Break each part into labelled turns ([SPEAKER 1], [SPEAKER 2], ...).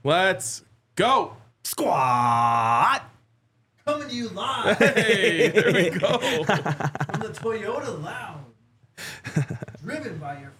[SPEAKER 1] Let's go.
[SPEAKER 2] Squad.
[SPEAKER 3] Coming to you live
[SPEAKER 1] Hey, there we go.
[SPEAKER 3] from the Toyota Lounge. Driven by your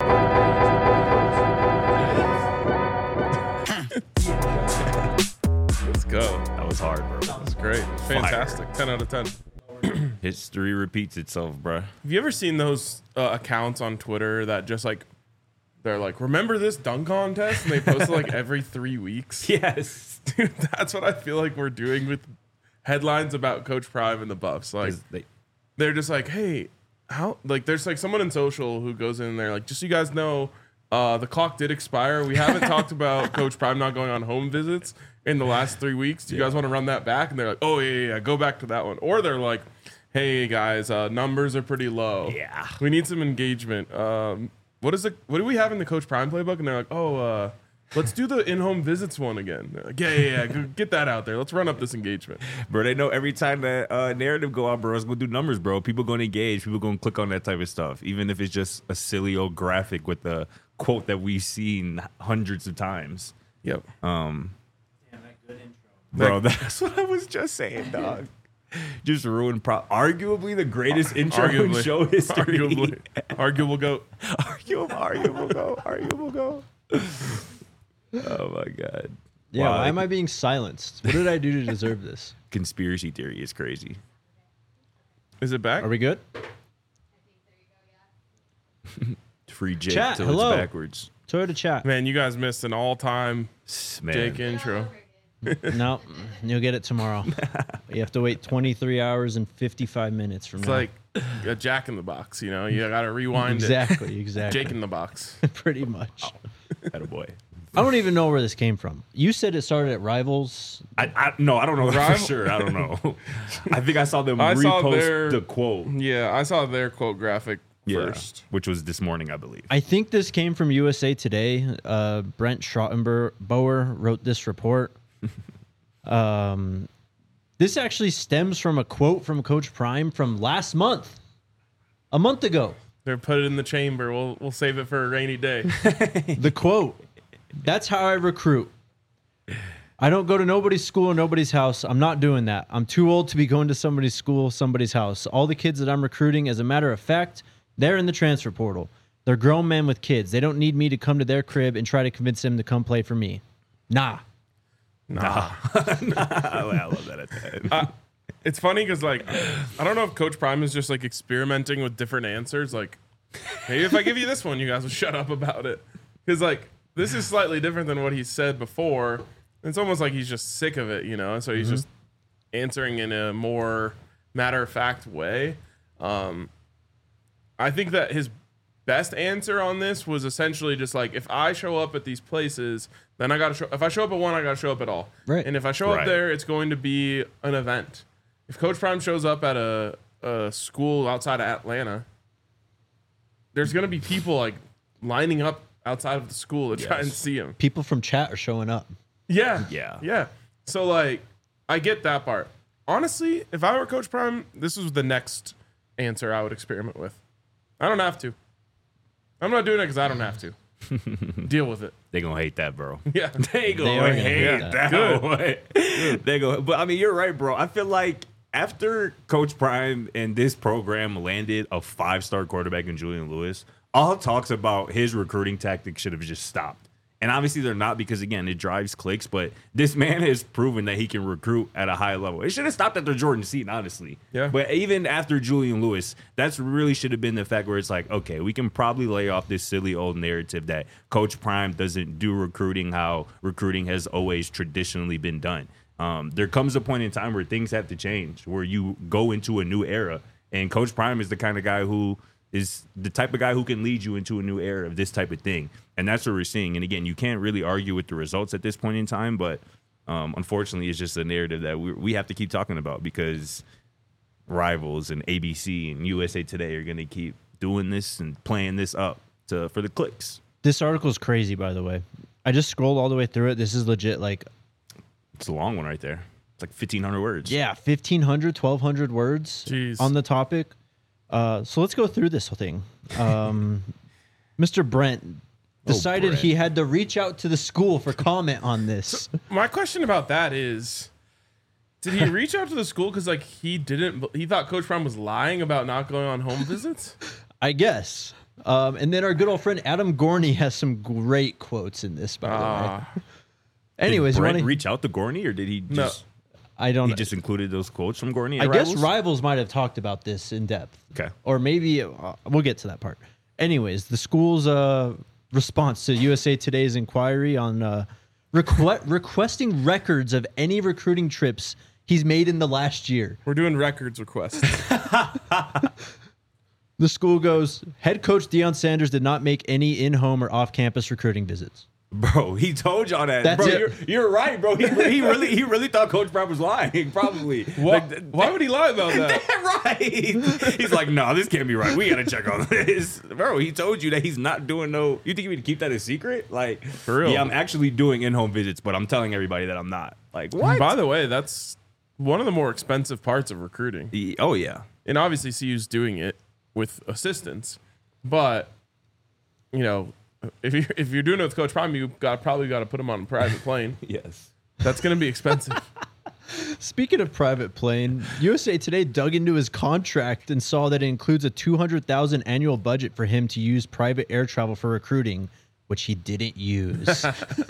[SPEAKER 1] Let's go.
[SPEAKER 2] That was hard, bro.
[SPEAKER 1] That's great. Fantastic. 10 out of 10.
[SPEAKER 2] History repeats itself, bro.
[SPEAKER 1] Have you ever seen those accounts on Twitter that just like, they're like, remember this dunk contest? And they post it like every 3 weeks.
[SPEAKER 2] Yes.
[SPEAKER 1] Dude, that's what I feel like we're doing with headlines about Coach Prime and the Buffs. Like, they're just like, hey, how? Like, there's like someone in social who goes in there, like, just so you guys know, the clock did expire. We haven't talked about Coach Prime not going on home visits in the last 3 weeks. Do you guys want to run that back? And they're like, oh, yeah, go back to that one. Or they're like, hey, guys, numbers are pretty low.
[SPEAKER 2] Yeah.
[SPEAKER 1] We need some engagement. What do we have in the Coach Prime playbook? And they're like, oh, let's do the in-home visits one again. They're like, yeah, get that out there. Let's run up this engagement.
[SPEAKER 2] Bro, they know every time that narrative go out, bro, it's going to do numbers, bro. People going to engage. People going to click on that type of stuff, even if it's just a silly old graphic with the quote that we've seen hundreds of times.
[SPEAKER 1] Yep.
[SPEAKER 3] Damn, that good intro.
[SPEAKER 2] Bro, that's what I was just saying, dog. Just ruined arguably the greatest intro in show history.
[SPEAKER 1] Arguable goat.
[SPEAKER 2] Arguable go. Oh my god.
[SPEAKER 4] Yeah,
[SPEAKER 2] Wow,
[SPEAKER 4] why am I being silenced? What did I do to deserve this?
[SPEAKER 2] Conspiracy theory is crazy.
[SPEAKER 1] Is it back?
[SPEAKER 4] Are we good?
[SPEAKER 2] Free Jake
[SPEAKER 4] Chat,
[SPEAKER 2] till
[SPEAKER 4] hello.
[SPEAKER 2] it's backwards.
[SPEAKER 4] Toyota chat.
[SPEAKER 1] Man, you guys missed an all-time
[SPEAKER 2] Man.
[SPEAKER 1] Jake intro.
[SPEAKER 4] No, you'll get it tomorrow. You have to wait 23 hours and 55 minutes from
[SPEAKER 1] It's
[SPEAKER 4] now.
[SPEAKER 1] like a Jack in the Box, you know? You got to rewind
[SPEAKER 4] exactly.
[SPEAKER 1] it. Jake in the Box.
[SPEAKER 4] Pretty much.
[SPEAKER 2] Attaboy.
[SPEAKER 4] I don't even know where this came from. You said it started at Rivals.
[SPEAKER 2] No, I don't know
[SPEAKER 1] Rival-
[SPEAKER 2] for sure. I don't know. I think I saw them
[SPEAKER 1] I saw
[SPEAKER 2] repost the quote.
[SPEAKER 1] Yeah, I saw their quote graphic first.
[SPEAKER 2] Which was this morning, I believe.
[SPEAKER 4] I think this came from USA Today. Brent Schrottenbauer wrote this report. This actually stems from a quote from Coach Prime from last month, a month ago.
[SPEAKER 1] They're put it in the chamber. We'll save it for a rainy day.
[SPEAKER 4] The quote, that's how I recruit. I don't go to nobody's school or nobody's house. I'm not doing that. I'm too old to be going to somebody's school, somebody's house. All the kids that I'm recruiting, as a matter of fact, they're in the transfer portal. They're grown men with kids. They don't need me to come to their crib and try to convince them to come play for me. Nah.
[SPEAKER 2] I love that at the end.
[SPEAKER 1] It's funny because, like, I don't know if Coach Prime is just, like, experimenting with different answers. Like, maybe if I give you this one, you guys will shut up about it. Because, like, this is slightly different than what he said before. It's almost like he's just sick of it, you know? So he's just answering in a more matter-of-fact way. I think that his best answer on this was essentially just like, if I show up at these places, then I got to show. If I show up at one, I got to show up at all.
[SPEAKER 4] Right.
[SPEAKER 1] And if I show up
[SPEAKER 2] Right.
[SPEAKER 1] there, it's going to be an event. If Coach Prime shows up at a school outside of Atlanta, there's going to be people like lining up outside of the school to try and see him.
[SPEAKER 4] People from chat are showing up.
[SPEAKER 1] Yeah. So like, I get that part. Honestly, if I were Coach Prime, this is the next answer I would experiment with. I don't have to. I'm not doing it because I don't have to. Deal with it.
[SPEAKER 2] They gonna hate that, bro.
[SPEAKER 1] Yeah.
[SPEAKER 2] They
[SPEAKER 4] They
[SPEAKER 2] gonna
[SPEAKER 4] are gonna
[SPEAKER 2] hate
[SPEAKER 4] hate
[SPEAKER 2] that.
[SPEAKER 1] Good.
[SPEAKER 2] They go. But I mean, you're right, bro. I feel like after Coach Prime and this program landed a 5-star quarterback in Julian Lewis, all talks about his recruiting tactics should have just stopped. And obviously they're not, because again, it drives clicks, but this man has proven that he can recruit at a high level. It should have stopped after Jordan Seaton, honestly.
[SPEAKER 1] Yeah.
[SPEAKER 2] But even after Julian Lewis, that's really should have been the fact where it's like, okay, we can probably lay off this silly old narrative that Coach Prime doesn't do recruiting how recruiting has always traditionally been done. There comes a point in time where things have to change, where you go into a new era. And Coach Prime is the kind of guy who is the type of guy who can lead you into a new era of this type of thing. And that's what we're seeing. And again, you can't really argue with the results at this point in time, but unfortunately, it's just a narrative that we have to keep talking about, because Rivals and ABC and USA Today are going to keep doing this and playing this up for the clicks.
[SPEAKER 4] This article is crazy, by the way. I just scrolled all the way through it. This is legit, like,
[SPEAKER 2] It's a long one right there. It's like 1,500 words.
[SPEAKER 4] yeah, 1,500, 1,200 words
[SPEAKER 1] Jeez.
[SPEAKER 4] on the topic. So let's go through this whole thing. Mr. Brent decided
[SPEAKER 2] Brett.
[SPEAKER 4] he had to reach out to the school for comment on this.
[SPEAKER 1] My question about that is, did he reach out to the school because like he thought Coach Prime was lying about not going on home visits?
[SPEAKER 4] I guess. And then our good old friend Adam Gorney has some great quotes in this, by the way. Anyways,
[SPEAKER 2] did
[SPEAKER 4] you
[SPEAKER 2] Brent
[SPEAKER 4] wanna-
[SPEAKER 2] reach out to Gorney, or did he just?
[SPEAKER 4] I don't
[SPEAKER 2] He
[SPEAKER 4] know.
[SPEAKER 2] just included those quotes from Gorney.
[SPEAKER 4] I
[SPEAKER 2] in
[SPEAKER 4] guess
[SPEAKER 2] Rivals?
[SPEAKER 4] Rivals might have talked about this in depth.
[SPEAKER 2] Okay.
[SPEAKER 4] Or maybe we'll get to that part. Anyways, the school's response to USA Today's inquiry on requesting records of any recruiting trips he's made in the last year.
[SPEAKER 1] We're doing records requests.
[SPEAKER 4] The school goes, head coach Deion Sanders did not make any in-home or off-campus recruiting visits.
[SPEAKER 2] Bro, he told y'all that.
[SPEAKER 4] That's
[SPEAKER 2] bro,
[SPEAKER 4] it.
[SPEAKER 2] You're right, bro. He really thought Coach Brown was lying. Probably.
[SPEAKER 1] Why would he lie about that?
[SPEAKER 2] Right. He's like, no, this can't be right. We gotta check on this, bro. He told you that he's not doing no. You think you would keep that a secret? Like,
[SPEAKER 1] For real.
[SPEAKER 2] Yeah, I'm actually doing in-home visits, but I'm telling everybody that I'm not. Like, what?
[SPEAKER 1] By the way, that's one of the more expensive parts of recruiting.
[SPEAKER 2] Oh yeah.
[SPEAKER 1] And obviously CU's doing it with assistance, but you know, if you're doing it with Coach Prime, you probably got to put him on a private plane.
[SPEAKER 2] Yes.
[SPEAKER 1] That's going to be expensive.
[SPEAKER 4] Speaking of private plane, USA Today dug into his contract and saw that it includes a $200,000 annual budget for him to use private air travel for recruiting, which he didn't use.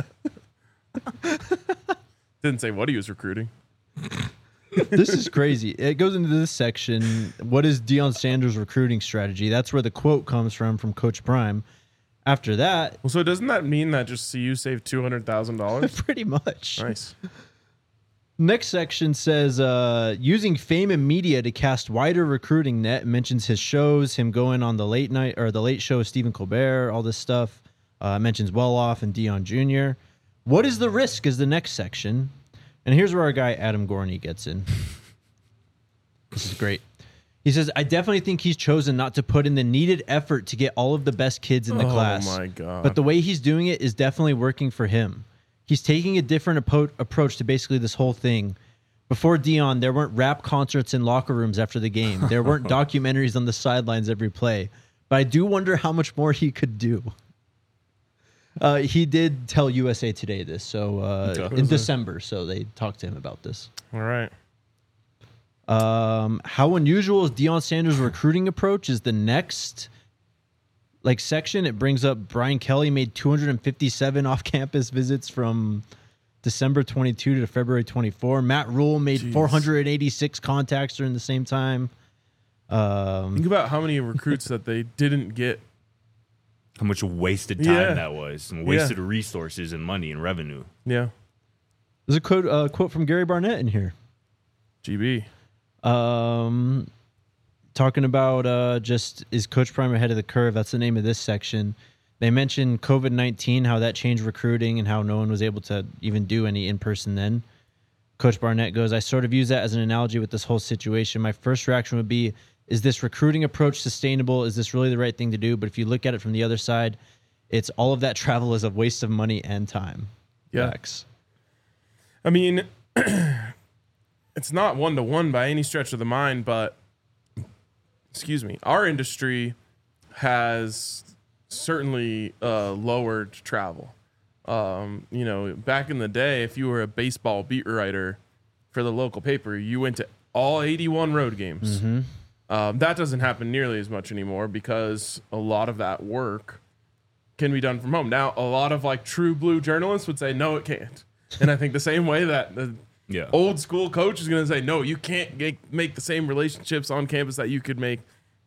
[SPEAKER 1] Didn't say what he was recruiting.
[SPEAKER 4] This is crazy. It goes into this section. What is Deion Sanders' recruiting strategy? That's where the quote comes from Coach Prime. After that,
[SPEAKER 1] Well, so doesn't that mean that just CU saved $200,000?
[SPEAKER 4] pretty much.
[SPEAKER 1] Nice.
[SPEAKER 4] Next section says using fame and media to cast wider recruiting net. It mentions his shows, him going on the late night or the late show with Stephen Colbert, all this stuff. Mentions Well-Off and Deion Jr. What is the risk is the next section. And here's where our guy Adam Gorney gets in. This is great. He says, I definitely think he's chosen not to put in the needed effort to get all of the best kids in the class.
[SPEAKER 1] Oh my God.
[SPEAKER 4] But the way he's doing it is definitely working for him. He's taking a different approach to basically this whole thing. Before Deion, there weren't rap concerts in locker rooms after the game. There weren't documentaries on the sidelines every play. But I do wonder how much more he could do. He did tell USA Today this, so in December. So they talked to him about this.
[SPEAKER 1] All right.
[SPEAKER 4] How unusual is Deion Sanders' recruiting approach is the next section. It brings up Brian Kelly made 257 off-campus visits from December 22 to February 24. Matt Rule made 486 contacts during the same time.
[SPEAKER 1] Think about how many recruits that they didn't get.
[SPEAKER 2] How much wasted time
[SPEAKER 1] Yeah.
[SPEAKER 2] that was, and wasted resources and money and revenue.
[SPEAKER 1] Yeah.
[SPEAKER 4] There's a quote from Gary Barnett in here.
[SPEAKER 1] GB.
[SPEAKER 4] Talking about just is Coach Prime ahead of the curve? That's the name of this section. They mentioned COVID-19, how that changed recruiting and how no one was able to even do any in-person then. Coach Barnett goes, I sort of use that as an analogy with this whole situation. My first reaction would be, is this recruiting approach sustainable? Is this really the right thing to do? But if you look at it from the other side, it's all of that travel is a waste of money and time.
[SPEAKER 1] Yeah.
[SPEAKER 4] Facts.
[SPEAKER 1] I mean, it's not one-to-one by any stretch of the mind, but excuse me, our industry has certainly lowered travel. Back in the day, if you were a baseball beat writer for the local paper, you went to all 81 road games.
[SPEAKER 4] Mm-hmm.
[SPEAKER 1] That doesn't happen nearly as much anymore because a lot of that work can be done from home. Now, a lot of true blue journalists would say, no, it can't. And I think the same way that the old school coach is going to say, no, you can't make the same relationships on campus that you could make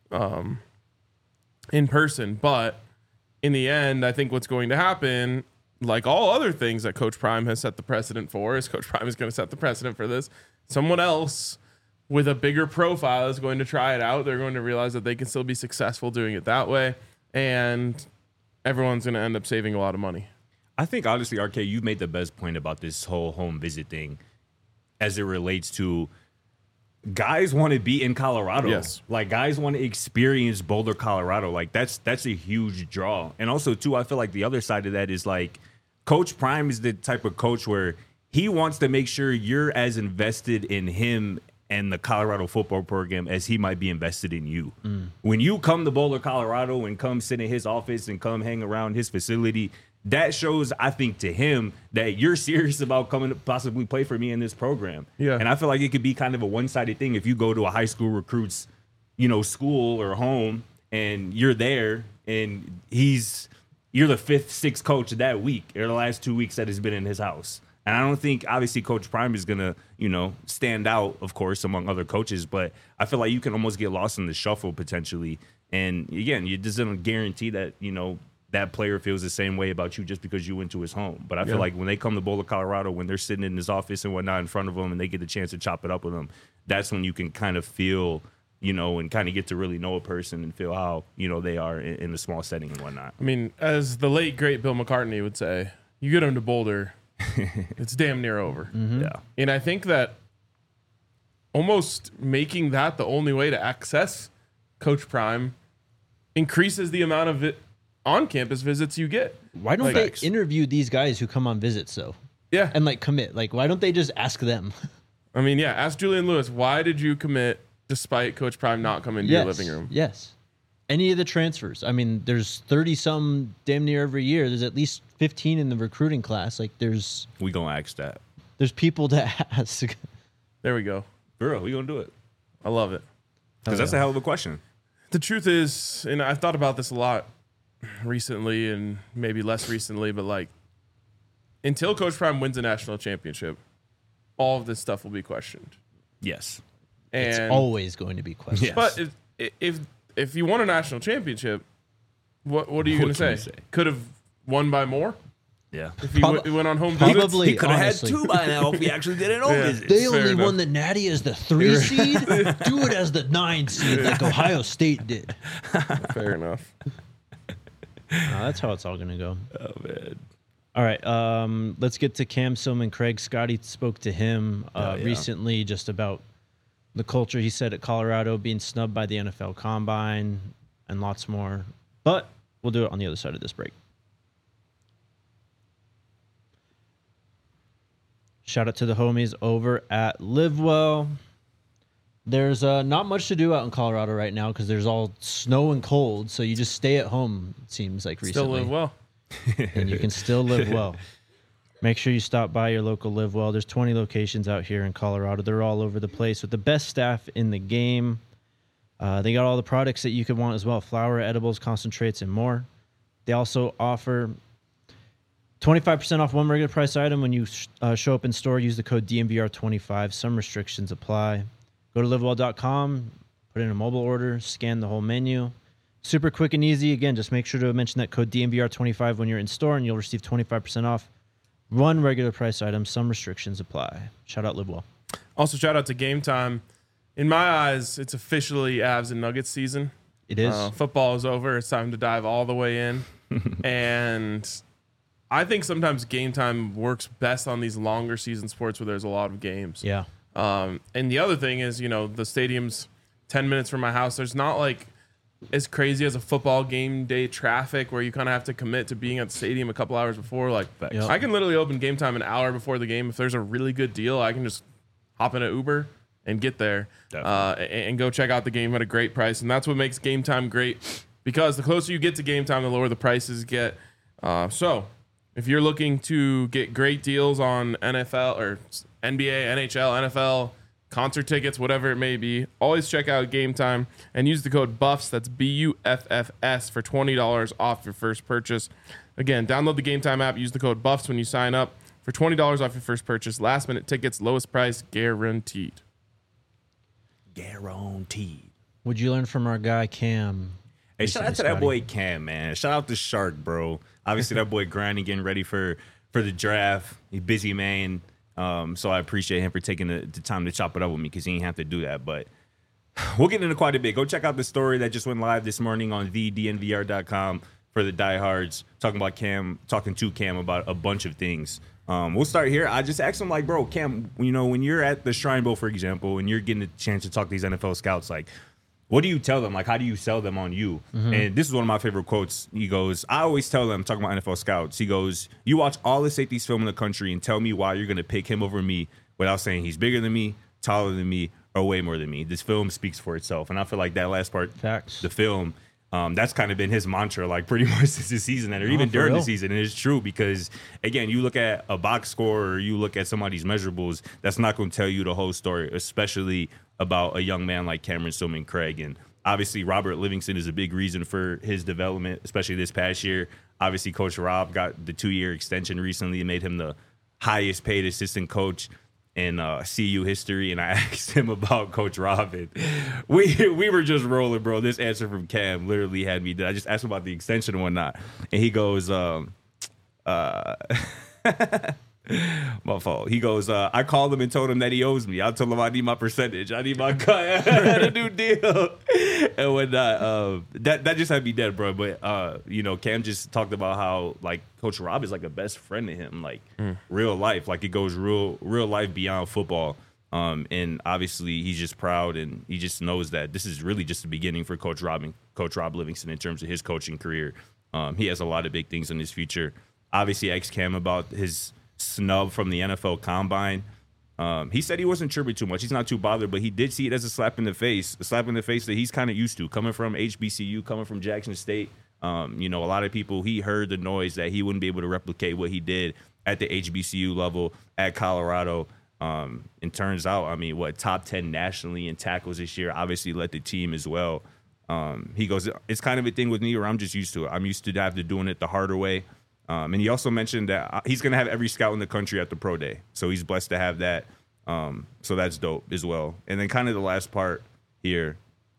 [SPEAKER 1] in person. But in the end, I think what's going to happen, like all other things that Coach Prime has set the precedent for, is Coach Prime is going to set the precedent for this. Someone else with a bigger profile is going to try it out. They're going to realize that they can still be successful doing it that way. And everyone's going to end up saving a lot of money.
[SPEAKER 2] I think, honestly, RK, you made the best point about this whole home visit thing as it relates to guys want to be in Colorado.
[SPEAKER 1] Yes.
[SPEAKER 2] Guys want to experience Boulder, Colorado. That's a huge draw. And also, too, I feel like the other side of that is Coach Prime is the type of coach where he wants to make sure you're as invested in him and the Colorado football program as he might be invested in you. When you come to Boulder, Colorado, and come sit in his office and come hang around his facility, that shows, I think, to him that you're serious about coming to possibly play for me in this program.
[SPEAKER 1] Yeah.
[SPEAKER 2] And I feel like it could be kind of a one-sided thing if you go to a high school recruit's, school or home and you're there and you're the 5th, 6th coach that week or the last 2 weeks that has been in his house. And I don't think, obviously, Coach Prime is going to, stand out, of course, among other coaches. But I feel like you can almost get lost in the shuffle potentially. And, again, it doesn't guarantee that, that player feels the same way about you just because you went to his home. But I feel like when they come to Boulder, Colorado, when they're sitting in his office and whatnot in front of him and they get the chance to chop it up with him, that's when you can kind of feel, and kind of get to really know a person and feel how, they are in a small setting and whatnot.
[SPEAKER 1] I mean, as the late, great Bill McCartney would say, you get him to Boulder, it's damn near over.
[SPEAKER 2] Yeah.
[SPEAKER 1] And I think that almost making that the only way to access Coach Prime increases the amount of on-campus visits you get.
[SPEAKER 4] Why don't
[SPEAKER 1] Like-
[SPEAKER 4] they interview these guys who come on visits, though?
[SPEAKER 1] Yeah.
[SPEAKER 4] And, commit? Why don't they just ask them?
[SPEAKER 1] I mean, yeah, ask Julian Lewis, why did you commit despite Coach Prime not coming to your living room?
[SPEAKER 4] Yes. Any of the transfers. I mean, there's 30-some damn near every year. There's at least 15 in the recruiting class. There's
[SPEAKER 2] We going to ask that.
[SPEAKER 4] people to ask.
[SPEAKER 1] There we go.
[SPEAKER 2] Bro, we going to do it.
[SPEAKER 1] I love it.
[SPEAKER 2] Because that's a hell of a question.
[SPEAKER 1] The truth is, and I've thought about this a lot recently and maybe less recently, but until Coach Prime wins a national championship, all of this stuff will be questioned.
[SPEAKER 2] Yes.
[SPEAKER 1] And
[SPEAKER 4] It's always going to be questioned.
[SPEAKER 2] Yes.
[SPEAKER 1] but if you won a national championship, what are you going
[SPEAKER 2] What
[SPEAKER 1] to
[SPEAKER 2] can you
[SPEAKER 1] say?
[SPEAKER 2] say?
[SPEAKER 1] Could have won by more
[SPEAKER 2] Yeah.
[SPEAKER 1] if he went on home
[SPEAKER 4] Probably.
[SPEAKER 1] visits?
[SPEAKER 2] He could have had
[SPEAKER 4] honestly.
[SPEAKER 2] 2 by now if we actually did it on
[SPEAKER 1] Yeah.
[SPEAKER 2] visits.
[SPEAKER 4] They
[SPEAKER 1] Fair
[SPEAKER 4] only
[SPEAKER 1] enough.
[SPEAKER 4] won the Natty as the 3 seed. Do it as the 9 seed, like Ohio State did.
[SPEAKER 1] Fair enough.
[SPEAKER 4] That's how it's all going to go.
[SPEAKER 2] Oh, man.
[SPEAKER 4] All right, let's get to Cam Silman. Craig Scotty spoke to him
[SPEAKER 2] yeah.
[SPEAKER 4] recently just about the culture, he said, at Colorado, being snubbed by the NFL Combine and lots more. But we'll do it on the other side of this break. Shout out to the homies over at LiveWell. There's not much to do out in Colorado right now because there's all snow and cold, so you just stay at home, it seems like recently.
[SPEAKER 1] Still live well.
[SPEAKER 4] And you can still live well. Make sure you stop by your local Live Well. There's 20 locations out here in Colorado. They're all over the place with the best staff in the game. They got all the products that you could want as well: flour, edibles, concentrates, and more. They also offer 25% off one regular price item when you show up in store. Use the code DNVR25. Some restrictions apply. Go to livewell.com, put in a mobile order, scan the whole menu. Super quick and easy. Again, just make sure to mention that code DNVR25 when you're in store, and you'll receive 25% off one regular price item. Some restrictions apply. Shout out LiveWell.
[SPEAKER 1] Also, shout out to Game Time. In my eyes, it's officially Avs and Nuggets season.
[SPEAKER 4] It is.
[SPEAKER 1] Football is over. It's time to dive all the way in. And I think sometimes Game Time works best on these longer season sports where there's a lot of games.
[SPEAKER 4] Yeah.
[SPEAKER 1] And the other thing is, the stadium's 10 minutes from my house. There's not as crazy as a football game day traffic where you kind of have to commit to being at the stadium a couple hours before.
[SPEAKER 4] Yep.
[SPEAKER 1] I can literally open Game Time an hour before the game. If there's a really good deal, I can just hop in an Uber and get there and go check out the game at a great price. And that's what makes Game Time great, because the closer you get to Game Time, the lower the prices get. So if you're looking to get great deals on NFL or NBA, NHL, NFL, concert tickets, whatever it may be, always check out Game Time and use the code BUFFS, that's BUFFS, for $20 off your first purchase. Again, download the Game Time app, use the code BUFFS when you sign up for $20 off your first purchase. Last minute tickets, lowest price guaranteed.
[SPEAKER 2] Guaranteed.
[SPEAKER 4] What'd you learn from our guy Cam?
[SPEAKER 2] Hey, shout out to that boy Cam, man. Shout out to Shark, bro. Obviously, that boy grinding, getting ready for the draft. He's busy, man. So I appreciate him for taking the time to chop it up with me, because he didn't have to do that. But we'll get into quite a bit. Go check out the story that just went live this morning on thednvr.com for the diehards, talking to Cam about a bunch of things. We'll start here. I just asked him, bro, Cam, when you're at the Shrine Bowl, for example, and you're getting a chance to talk to these NFL scouts, what do you tell them? How do you sell them on you? Mm-hmm. And this is one of my favorite quotes. He goes, I always tell them, talking about NFL scouts, he goes, you watch all the safeties film in the country and tell me why you're going to pick him over me without saying he's bigger than me, taller than me, way more than me. This film speaks for itself. And I feel like that last part,
[SPEAKER 4] Facts.
[SPEAKER 2] the film, that's kind of been his mantra, like pretty much since the season, and or even during the season. And it's true because, again, you look at a box score or you look at somebody's measurables, that's not going to tell you the whole story, especially about a young man like Cameron Stillman-Craig. And obviously, Robert Livingston is a big reason for his development, especially this past year. Obviously, Coach Rob got the 2-year extension recently and made him the highest paid assistant coach in CU history. And I asked him about Coach Rob, and we were just rolling, bro. This answer from Cam literally had me dead. I just asked him about the extension and whatnot, and he goes, my fault. He goes, I called him and told him that he owes me. I told him I need my percentage. I need my cut. I had a new deal. And whatnot. That just had me dead, bro. But, Cam just talked about how, like, Coach Rob is like a best friend to him, like real life. Like, it goes real life beyond football. And obviously he's just proud, and he just knows that this is really just the beginning for Coach Rob Livingston in terms of his coaching career. He has a lot of big things in his future. Obviously, asked Cam about his snub from the NFL Combine. He said he wasn't tripping too much. He's not too bothered, but he did see it as a slap in the face that he's kind of used to, coming from HBCU, coming from Jackson State. A lot of people, he heard the noise that he wouldn't be able to replicate what he did at the HBCU level at Colorado. It turns out, top 10 nationally in tackles this year, obviously led the team as well. He goes, it's kind of a thing with me where I'm just used to it. I'm used to have to doing it the harder way. And he also mentioned that he's going to have every scout in the country at the pro day. So he's blessed to have that. So that's dope as well. And then kind of the last part here.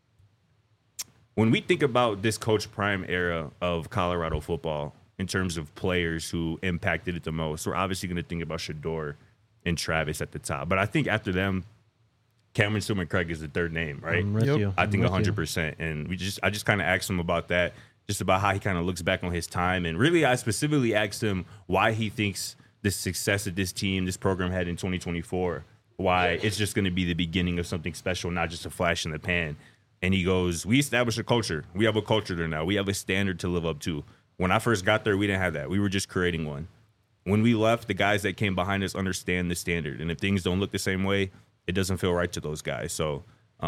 [SPEAKER 2] When we think about this Coach Prime era of Colorado football in terms of players who impacted it the most, we're obviously going to think about Shedeur and Travis at the top. But I think after them, Cameron Stillman-Craig is the third name, right? I think 100%. And I just kind of asked him about that, just about how he kind of looks back on his time. And really, I specifically asked him why he thinks the success that this program had in 2024, why it's just going to be the beginning of something special, not just a flash in the pan. And he goes, we established a culture. We have a culture there now. We have a standard to live up to. When I first got there, we didn't have that. We were just creating one. When we left, the guys that came behind us understand the standard. And if things don't look the same way, it doesn't feel right to those guys. So,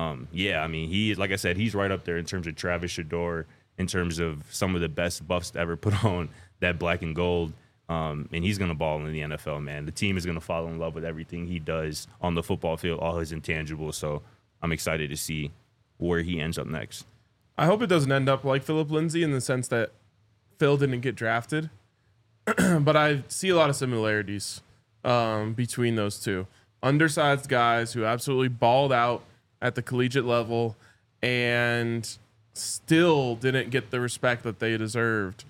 [SPEAKER 2] he, like I said, he's right up there in terms of Travis Shedeur, in terms of some of the best buffs to ever put on that black and gold. And he's going to ball in the NFL, man. The team is going to fall in love with everything he does on the football field, all his intangibles. So I'm excited to see where he ends up next.
[SPEAKER 1] I hope it doesn't end up like Philip Lindsay in the sense that Phil didn't get drafted. But I see a lot of similarities between those two. Undersized guys who absolutely balled out at the collegiate level and still didn't get the respect that they deserved.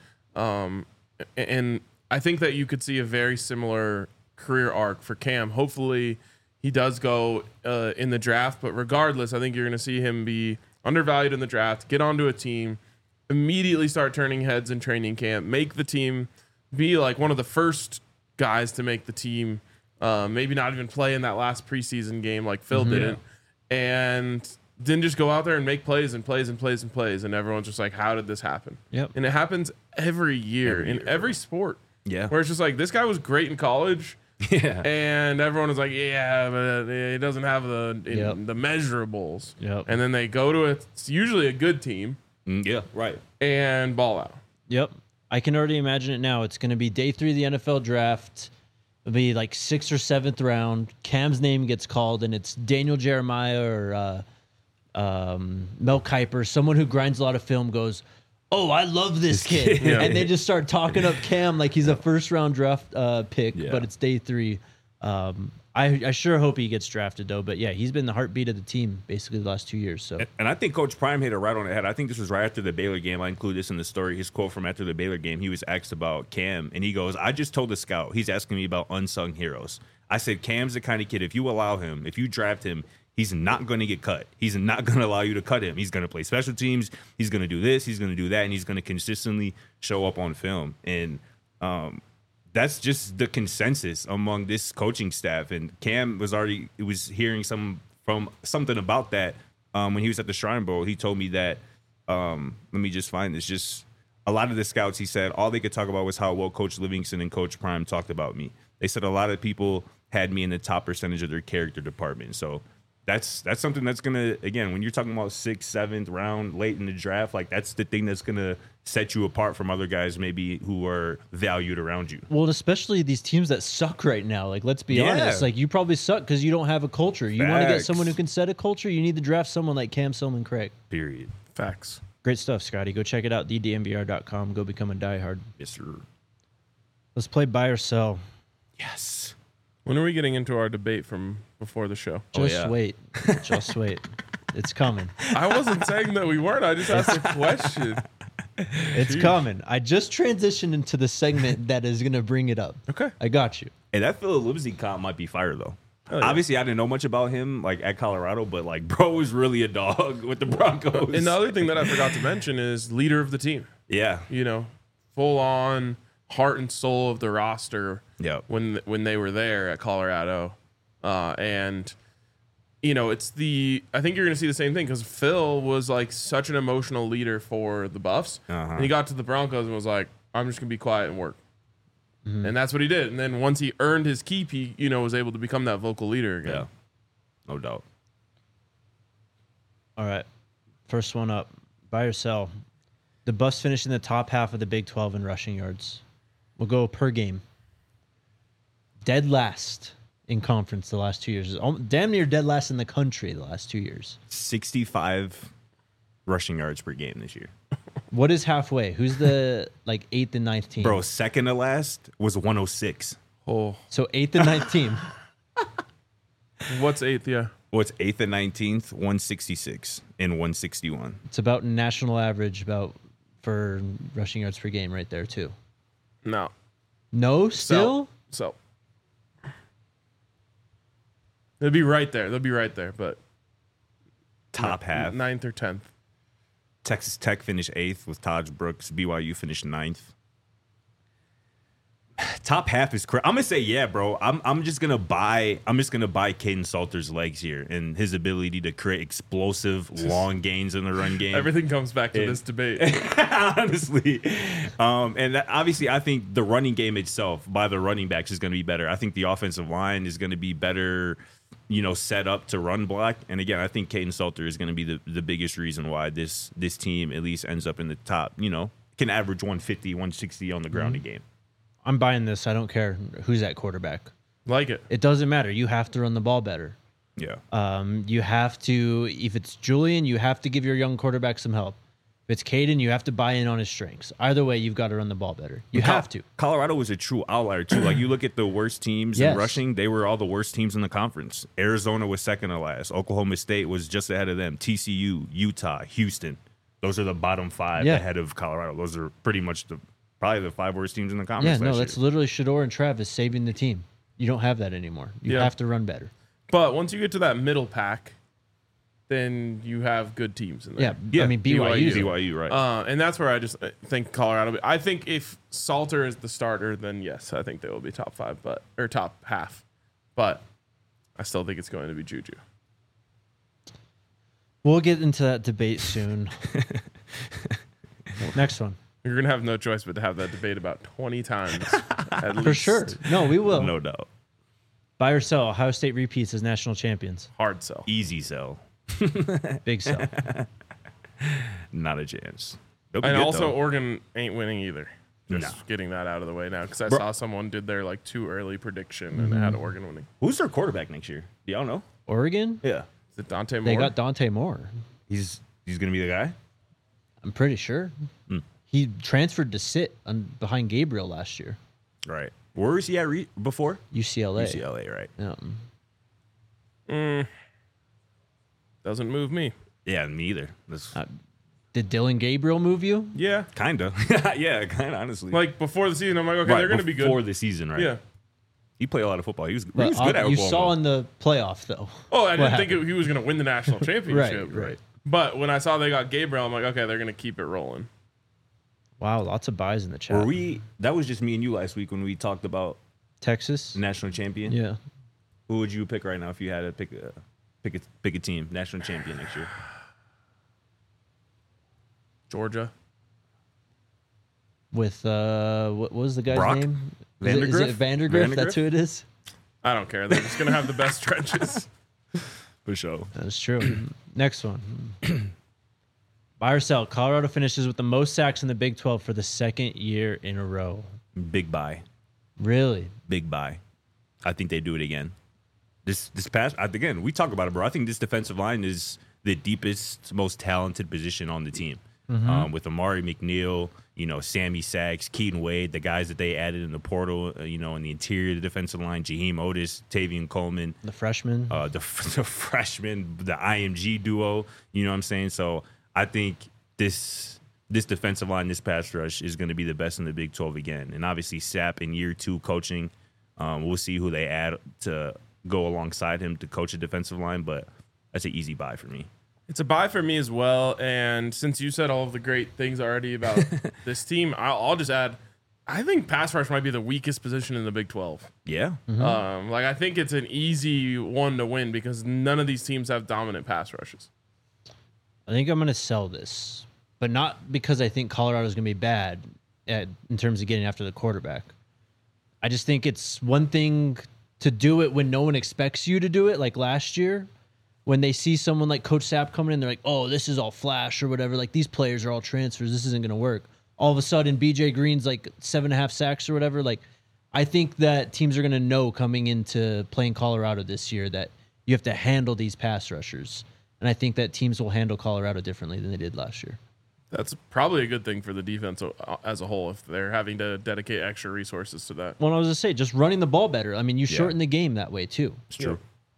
[SPEAKER 1] And I think that you could see a very similar career arc for Cam. Hopefully he does go in the draft, but regardless, I think you're going to see him be undervalued in the draft, get onto a team, immediately start turning heads in training camp, make the team, be like one of the first guys to make the team, maybe not even play in that last preseason game like Phil didn't, and then just go out there and make plays and plays and plays and plays, and everyone's just like, how did this happen?
[SPEAKER 4] Yep.
[SPEAKER 1] And it happens every year in every sport.
[SPEAKER 2] Yeah.
[SPEAKER 1] Where it's just like, this guy was great in college.
[SPEAKER 2] Yeah.
[SPEAKER 1] And everyone is like, yeah, but he doesn't have the measurables.
[SPEAKER 4] Yep.
[SPEAKER 1] And then they go to it's usually a good team.
[SPEAKER 2] Yeah, right.
[SPEAKER 1] And ball out.
[SPEAKER 4] Yep. I can already imagine it now. It's going to be day 3 of the NFL draft. It'll be like 6th or 7th round. Cam's name gets called, and it's Daniel Jeremiah or Mel Kiper, someone who grinds a lot of film, goes, oh, I love this kid.
[SPEAKER 1] Yeah.
[SPEAKER 4] And they just start talking up Cam like he's a first-round draft pick, but it's day 3. I sure hope he gets drafted, though. But, yeah, he's been the heartbeat of the team basically the last 2 years. So,
[SPEAKER 2] and I think Coach Prime hit it right on the head. I think this was right after the Baylor game. I include this in the story. His quote from after the Baylor game, he was asked about Cam, and he goes, I just told the scout. He's asking me about unsung heroes. I said, Cam's the kind of kid, if you allow him, if you draft him, he's not going to get cut. He's not going to allow you to cut him. He's going to play special teams. He's going to do this. He's going to do that. And he's going to consistently show up on film. And that's just the consensus among this coaching staff. And Cam was hearing something about that when he was at the Shrine Bowl. He told me that, let me just find this. Just a lot of the scouts, he said, all they could talk about was how well Coach Livingston and Coach Prime talked about me. They said a lot of people had me in the top percentage of their character department. So That's something that's gonna, again, when you're talking about 6th, 7th round, late in the draft, like that's the thing that's gonna set you apart from other guys maybe who are valued around you.
[SPEAKER 4] Well, especially these teams that suck right now. Like, let's be honest. Like, you probably suck because you don't have a culture. You want to get someone who can set a culture. You need to draft someone like Cam Silman Craig.
[SPEAKER 2] Period.
[SPEAKER 1] Facts.
[SPEAKER 4] Great stuff, Scotty. Go check it out. TheDNVR.com. Go become a diehard.
[SPEAKER 2] Yes, sir.
[SPEAKER 4] Let's play buy or sell.
[SPEAKER 2] Yes.
[SPEAKER 1] When are we getting into our debate from before the show?
[SPEAKER 4] Just wait. Just wait. It's coming.
[SPEAKER 1] I wasn't saying that we weren't. I just asked a question.
[SPEAKER 4] It's coming. I just transitioned into the segment that is going to bring it up.
[SPEAKER 1] Okay.
[SPEAKER 4] I got you.
[SPEAKER 2] Hey, that Philip Lindsay comp might be fire though.
[SPEAKER 1] Oh, yeah.
[SPEAKER 2] Obviously, I didn't know much about him like at Colorado, but like, bro was really a dog with the Broncos.
[SPEAKER 1] And the other thing that I forgot to mention is leader of the team.
[SPEAKER 2] yeah,
[SPEAKER 1] You know, full on heart and soul of the roster.
[SPEAKER 2] Yep.
[SPEAKER 1] When they were there at Colorado, and you know, I think you're going to see the same thing because Phil was like such an emotional leader for the Buffs, and he got to the Broncos and was like, "I'm just going to be quiet and work." And that's what he did. And then once he earned his keep, he, you know, was able to become that vocal leader again.
[SPEAKER 2] yeah, no doubt.
[SPEAKER 4] All right. First one up. Buy or sell. The Buffs finished in the top half of the Big 12 in rushing yards. We'll go per game. Dead last in conference the last 2 years. Damn near dead last in the country the last 2 years.
[SPEAKER 2] 65 rushing yards per game this year.
[SPEAKER 4] What is halfway? Who's the like 8th and 9th team?
[SPEAKER 2] Bro, second to last was 106.
[SPEAKER 1] Oh,
[SPEAKER 4] So 8th and 9th team.
[SPEAKER 1] what's 8th? Yeah.
[SPEAKER 2] What's 8th and 19th? 166 and 161.
[SPEAKER 4] It's about national average about for rushing yards per game right there too.
[SPEAKER 1] No.
[SPEAKER 4] No, still?
[SPEAKER 1] So they'll be right there. They'll be right there, but
[SPEAKER 2] Top half.
[SPEAKER 1] 9th or 10th.
[SPEAKER 2] Texas Tech finished 8th with Taj Brooks. BYU finished 9th. Top half is crazy. I'm gonna say yeah, bro. I'm just gonna buy Caden Salter's legs here and his ability to create explosive long gains in the run game.
[SPEAKER 1] Everything comes back to this debate.
[SPEAKER 2] Honestly, and obviously, I think the running game itself by the running backs is going to be better. I think the offensive line is going to be better, you know, set up to run block. And again, I think Caden Salter is going to be the biggest reason why this team at least ends up in the top. You know, can average 150, 160 on the ground a game.
[SPEAKER 4] I'm buying this. I don't care who's at quarterback.
[SPEAKER 1] Like it.
[SPEAKER 4] It doesn't matter. You have to run the ball better.
[SPEAKER 2] Yeah.
[SPEAKER 4] You have to, if it's Julian, you have to give your young quarterback some help. If it's Caden, you have to buy in on his strengths. Either way, you've got to run the ball better. You have to.
[SPEAKER 2] Colorado was a true outlier, too. Like, you look at the worst teams in rushing, they were all the worst teams in the conference. Arizona was second to last. Oklahoma State was just ahead of them. TCU, Utah, Houston. Those are the bottom five ahead of Colorado. Those are pretty much probably the 5 worst teams in the conference.
[SPEAKER 4] Yeah, no, that's literally Shador and Travis saving the team. You don't have that anymore. You have to run better.
[SPEAKER 1] But once you get to that middle pack, then you have good teams in there.
[SPEAKER 4] Yeah. I mean,
[SPEAKER 2] BYU, right.
[SPEAKER 1] And that's where I just think Colorado. I think if Salter is the starter, then yes, I think they will be top 5, or top half. But I still think it's going to be Juju.
[SPEAKER 4] We'll get into that debate soon. Next one.
[SPEAKER 1] You're going to have no choice but to have that debate about 20 times. At least.
[SPEAKER 4] For sure. No, we will.
[SPEAKER 2] No doubt.
[SPEAKER 4] Buy or sell. Ohio State repeats as national champions.
[SPEAKER 1] Hard sell.
[SPEAKER 2] Easy sell.
[SPEAKER 4] Big sell.
[SPEAKER 2] Not a chance.
[SPEAKER 1] And also, Oregon ain't winning either. Just getting that out of the way now, because I saw someone did their like too early prediction and had Oregon winning.
[SPEAKER 2] Who's their quarterback next year? Do y'all know?
[SPEAKER 4] Oregon?
[SPEAKER 2] Yeah.
[SPEAKER 1] Is it Dante Moore?
[SPEAKER 4] They got Dante Moore.
[SPEAKER 2] He's gonna be the guy?
[SPEAKER 4] I'm pretty sure. He transferred to sit behind Gabriel last year.
[SPEAKER 2] Right. Where was he at before?
[SPEAKER 4] UCLA.
[SPEAKER 2] UCLA, right.
[SPEAKER 4] Yeah.
[SPEAKER 1] Doesn't move me.
[SPEAKER 2] Yeah, me either.
[SPEAKER 4] Did Dylan Gabriel move you?
[SPEAKER 1] Yeah.
[SPEAKER 2] Kinda. Yeah, kinda, honestly.
[SPEAKER 1] Like before the season, I'm like, okay, they're going to be good.
[SPEAKER 2] Before the season, right?
[SPEAKER 1] Yeah.
[SPEAKER 2] He played a lot of football. He was good
[SPEAKER 4] But
[SPEAKER 2] at Oklahoma.
[SPEAKER 4] you saw in the playoff, though.
[SPEAKER 1] Oh, I didn't think he was going to win the national championship.
[SPEAKER 4] Right.
[SPEAKER 1] But when I saw they got Gabriel, I'm like, okay, they're going to keep it rolling.
[SPEAKER 4] Wow, lots of buys in the chat.
[SPEAKER 2] That was just me and you last week when we talked about
[SPEAKER 4] Texas?
[SPEAKER 2] the national champion.
[SPEAKER 4] Yeah.
[SPEAKER 2] Who would you pick right now if you had to pick a team, national champion next year?
[SPEAKER 1] Georgia.
[SPEAKER 4] With, what was the guy's
[SPEAKER 2] Brock?
[SPEAKER 4] name?
[SPEAKER 2] Vandergriff?
[SPEAKER 4] Is it Vandergriff? That's who it is?
[SPEAKER 1] I don't care. They're just going to have the best trenches.
[SPEAKER 2] For sure.
[SPEAKER 4] That's true. Next one. Buy or sell. Colorado finishes with the most sacks in the Big 12 for the second year in a row.
[SPEAKER 2] Big buy.
[SPEAKER 4] Really?
[SPEAKER 2] Big buy. I think they do it again. This past, again, we talk about it, bro. I think this defensive line is the deepest, most talented position on the team. With Amari McNeil, Sammy Sachs, Keaton Wade, the guys that they added in the portal, in the interior of the defensive line, Jaheim Otis, Tavian Coleman.
[SPEAKER 4] The freshman.
[SPEAKER 2] The freshman, the IMG duo, you know what I'm saying? So I think this defensive line, this pass rush is going to be the best in the Big 12 again. And obviously Sapp in year 2 coaching, we'll see who they add to go alongside him to coach a defensive line, but that's an easy buy for me.
[SPEAKER 1] It's a buy for me as well. And since you said all of the great things already about this team, I'll just add, I think pass rush might be the weakest position in the Big 12.
[SPEAKER 2] Yeah.
[SPEAKER 1] I think it's an easy one to win because none of these teams have dominant pass rushes.
[SPEAKER 4] I think I'm going to sell this, but not because I think Colorado's going to be bad in terms of getting after the quarterback. I just think it's one thing to do it when no one expects you to do it, like last year. When they see someone like Coach Sapp coming in, they're like, oh, this is all flash or whatever. Like, these players are all transfers. This isn't going to work. All of a sudden, BJ Green's like 7.5 sacks or whatever. Like, I think that teams are going to know coming into playing Colorado this year that you have to handle these pass rushers. And I think that teams will handle Colorado differently than they did last year.
[SPEAKER 1] That's probably a good thing for the defense as a whole if they're having to dedicate extra resources to that.
[SPEAKER 4] Well, I was going to say, just running the ball better. I mean, you shorten the game that way, too.
[SPEAKER 2] It's true.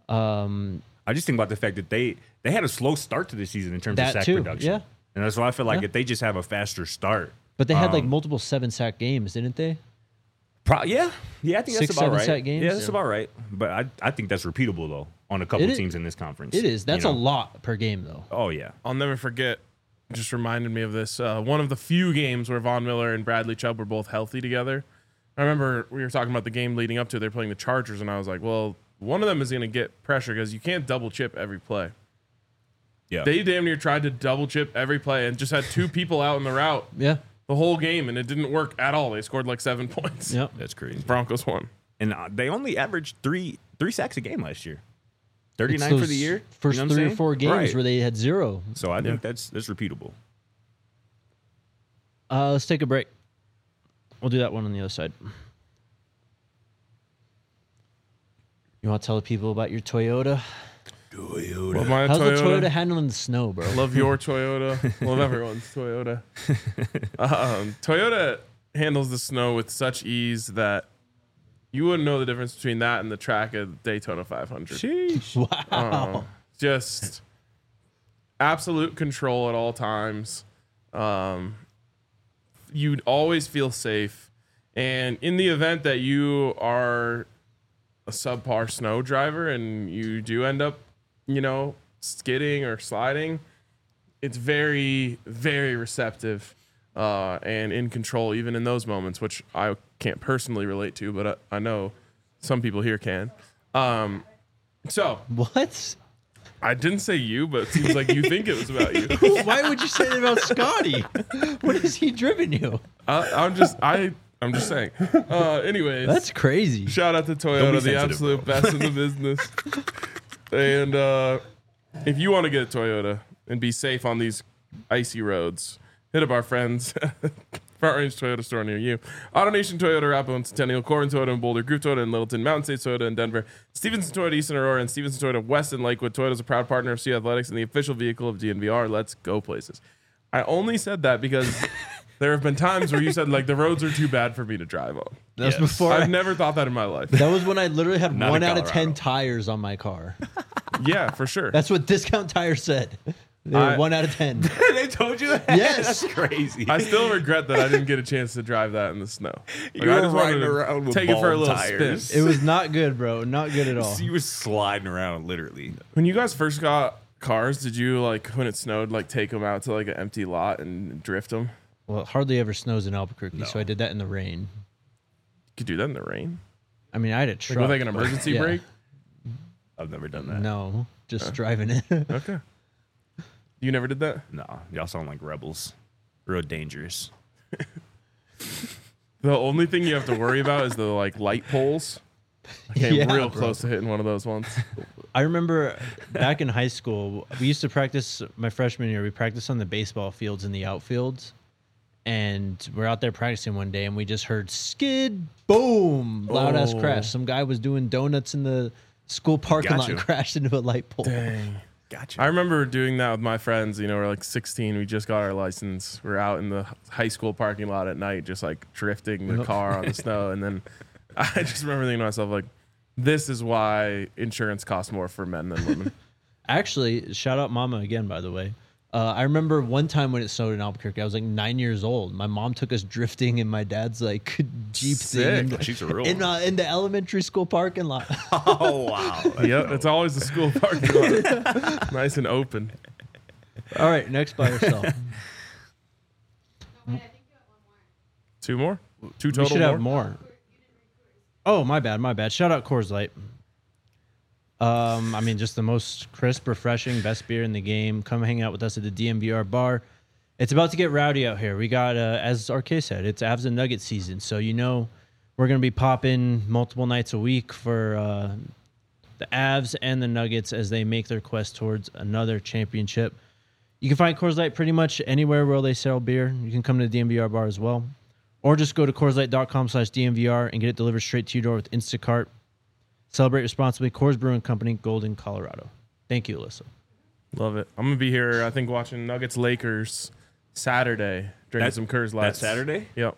[SPEAKER 2] I just think about the fact that they had a slow start to the season in terms of sack production.
[SPEAKER 4] Yeah.
[SPEAKER 2] And that's why I feel like if they just have a faster start.
[SPEAKER 4] But they had like multiple 7-sack games, didn't they?
[SPEAKER 2] Yeah, I think that's about right.
[SPEAKER 4] 6-7 sack games?
[SPEAKER 2] Yeah, that's about right. But I think that's repeatable, though, on a couple teams in this conference.
[SPEAKER 4] It is. That's a lot per game, though.
[SPEAKER 2] Oh, yeah.
[SPEAKER 1] I'll never forget, just reminded me of this, one of the few games where Von Miller and Bradley Chubb were both healthy together. I remember we were talking about the game leading up to it. They're playing the Chargers, and I was like, well, one of them is going to get pressure because you can't double chip every play.
[SPEAKER 2] Yeah.
[SPEAKER 1] They damn near tried to double chip every play and just had 2 people out in the route the whole game, and it didn't work at all. They scored like 7 points.
[SPEAKER 4] Yep.
[SPEAKER 2] That's crazy.
[SPEAKER 1] Broncos won.
[SPEAKER 2] And they only averaged three sacks a game last year. 39 for the year.
[SPEAKER 4] First 3 or 4 games where they had 0.
[SPEAKER 2] So I think that's repeatable.
[SPEAKER 4] Let's take a break. We'll do that one on the other side. You want to tell the people about your Toyota?
[SPEAKER 1] Well, my
[SPEAKER 4] How's
[SPEAKER 1] Toyota,
[SPEAKER 4] the Toyota handling the snow, bro?
[SPEAKER 1] Love your Toyota. Love everyone's Toyota. Toyota handles the snow with such ease that you wouldn't know the difference between that and the track of Daytona 500.
[SPEAKER 2] Sheesh.
[SPEAKER 4] Wow.
[SPEAKER 1] Just absolute control at all times. You'd always feel safe. And in the event that you are a subpar snow driver and you do end up, skidding or sliding, it's very, very receptive and in control even in those moments, which I can't personally relate to, but I know some people here can. So
[SPEAKER 4] what?
[SPEAKER 1] I didn't say you, but it seems like you think it was about you.
[SPEAKER 4] Why would you say that about Scotty? What has he driven you?
[SPEAKER 1] I'm just saying. Anyways,
[SPEAKER 4] That's crazy.
[SPEAKER 1] shout out to
[SPEAKER 2] Don't
[SPEAKER 1] Toyota,
[SPEAKER 2] be
[SPEAKER 1] the
[SPEAKER 2] sensitive,
[SPEAKER 1] absolute best in the business. And if you want to get a Toyota and be safe on these icy roads, hit up our friends. Front Range Toyota store near you. AutoNation Toyota, Arapahoe and Centennial, Corbin Toyota in Boulder, Groove Toyota in Littleton, Mountain State Toyota in Denver, Stevenson Toyota East in Aurora, and Stevenson Toyota West in Lakewood. Toyota is a proud partner of CU Athletics and the official vehicle of DNVR. Let's go places. I only said that because there have been times where you said like the roads are too bad for me to drive on.
[SPEAKER 4] That was before.
[SPEAKER 1] I've never thought that in my life.
[SPEAKER 4] That was when I literally had
[SPEAKER 2] Not
[SPEAKER 4] 1
[SPEAKER 2] in
[SPEAKER 4] out of 10
[SPEAKER 2] Colorado.
[SPEAKER 4] tires on my car.
[SPEAKER 1] Yeah, for sure.
[SPEAKER 4] That's what Discount Tire said. They were 1 out of 10.
[SPEAKER 2] They told you that?
[SPEAKER 4] Yes.
[SPEAKER 2] That's crazy.
[SPEAKER 1] I still regret that I didn't get a chance to drive that in the snow. Like,
[SPEAKER 2] You
[SPEAKER 1] I
[SPEAKER 2] were
[SPEAKER 1] just wanted
[SPEAKER 2] riding
[SPEAKER 1] to
[SPEAKER 2] around with
[SPEAKER 1] take it for a
[SPEAKER 2] bald
[SPEAKER 1] little
[SPEAKER 2] tires.
[SPEAKER 1] spin.
[SPEAKER 4] It was not good, bro. Not good at all.
[SPEAKER 2] You were sliding around, literally.
[SPEAKER 1] When you guys first got cars, did you like when it snowed, like take them out to like an empty lot and drift them?
[SPEAKER 4] Well, it hardly ever snows in Albuquerque, so I did that in the rain.
[SPEAKER 1] You could do that in the rain.
[SPEAKER 4] I mean, I had a
[SPEAKER 1] Like
[SPEAKER 4] truck.
[SPEAKER 1] with like an
[SPEAKER 4] but-
[SPEAKER 1] emergency
[SPEAKER 4] yeah.
[SPEAKER 1] brake.
[SPEAKER 2] I've never done that.
[SPEAKER 4] No, just driving it.
[SPEAKER 1] Okay. You never did that?
[SPEAKER 2] No, y'all sound like rebels. Real dangerous.
[SPEAKER 1] The only thing you have to worry about is the like light poles. I came
[SPEAKER 4] Yeah,
[SPEAKER 1] real
[SPEAKER 4] bro.
[SPEAKER 1] close to hitting one of those once.
[SPEAKER 4] I remember back in high school, we used to practice my freshman year. We practiced on the baseball fields in the outfields. And we're out there practicing one day and we just heard skid, boom, loud ass
[SPEAKER 1] Oh.
[SPEAKER 4] crash. Some guy was doing donuts in the school parking lot and
[SPEAKER 2] Gotcha.
[SPEAKER 4] crashed into a light pole.
[SPEAKER 1] Dang.
[SPEAKER 2] Gotcha.
[SPEAKER 1] I remember doing that with my friends. You know, we're like 16. We just got our license. We're out in the high school parking lot at night, just like drifting the
[SPEAKER 4] Yep.
[SPEAKER 1] car on the snow. And then I just remember thinking to myself, like, this is why insurance costs more for men than women.
[SPEAKER 4] Actually, shout out Mama again, by the way. I remember one time when it snowed in Albuquerque, I was like 9 years old. My mom took us drifting in my dad's like Jeep
[SPEAKER 1] Sick.
[SPEAKER 4] thing
[SPEAKER 2] She's a real
[SPEAKER 4] in,
[SPEAKER 2] one.
[SPEAKER 4] in the elementary school parking lot.
[SPEAKER 2] Oh wow.
[SPEAKER 1] Yep, it's always the school parking lot. Nice and open.
[SPEAKER 4] All right, next by yourself.
[SPEAKER 1] Two more? Two
[SPEAKER 4] We
[SPEAKER 1] total
[SPEAKER 4] should
[SPEAKER 1] more?
[SPEAKER 4] have more. Oh, my bad. Shout out Coors Light. I mean, just the most crisp, refreshing, best beer in the game. Come hang out with us at the DMVR bar. It's about to get rowdy out here. We got, as RK said, it's Avs and Nuggets season. So, you know, we're going to be popping multiple nights a week for the Avs and the Nuggets as they make their quest towards another championship. You can find Coors Light pretty much anywhere where they sell beer. You can come to the DMVR bar as well. Or just go to CoorsLight.com/DMVR and get it delivered straight to your door with Instacart. Celebrate responsibly. Coors Brewing Company, Golden, Colorado. Thank you, Alyssa.
[SPEAKER 1] Love it. I'm going to be here, I think, watching Nuggets Lakers Saturday, drinking some Coors Light.
[SPEAKER 2] That Saturday?
[SPEAKER 1] Yep.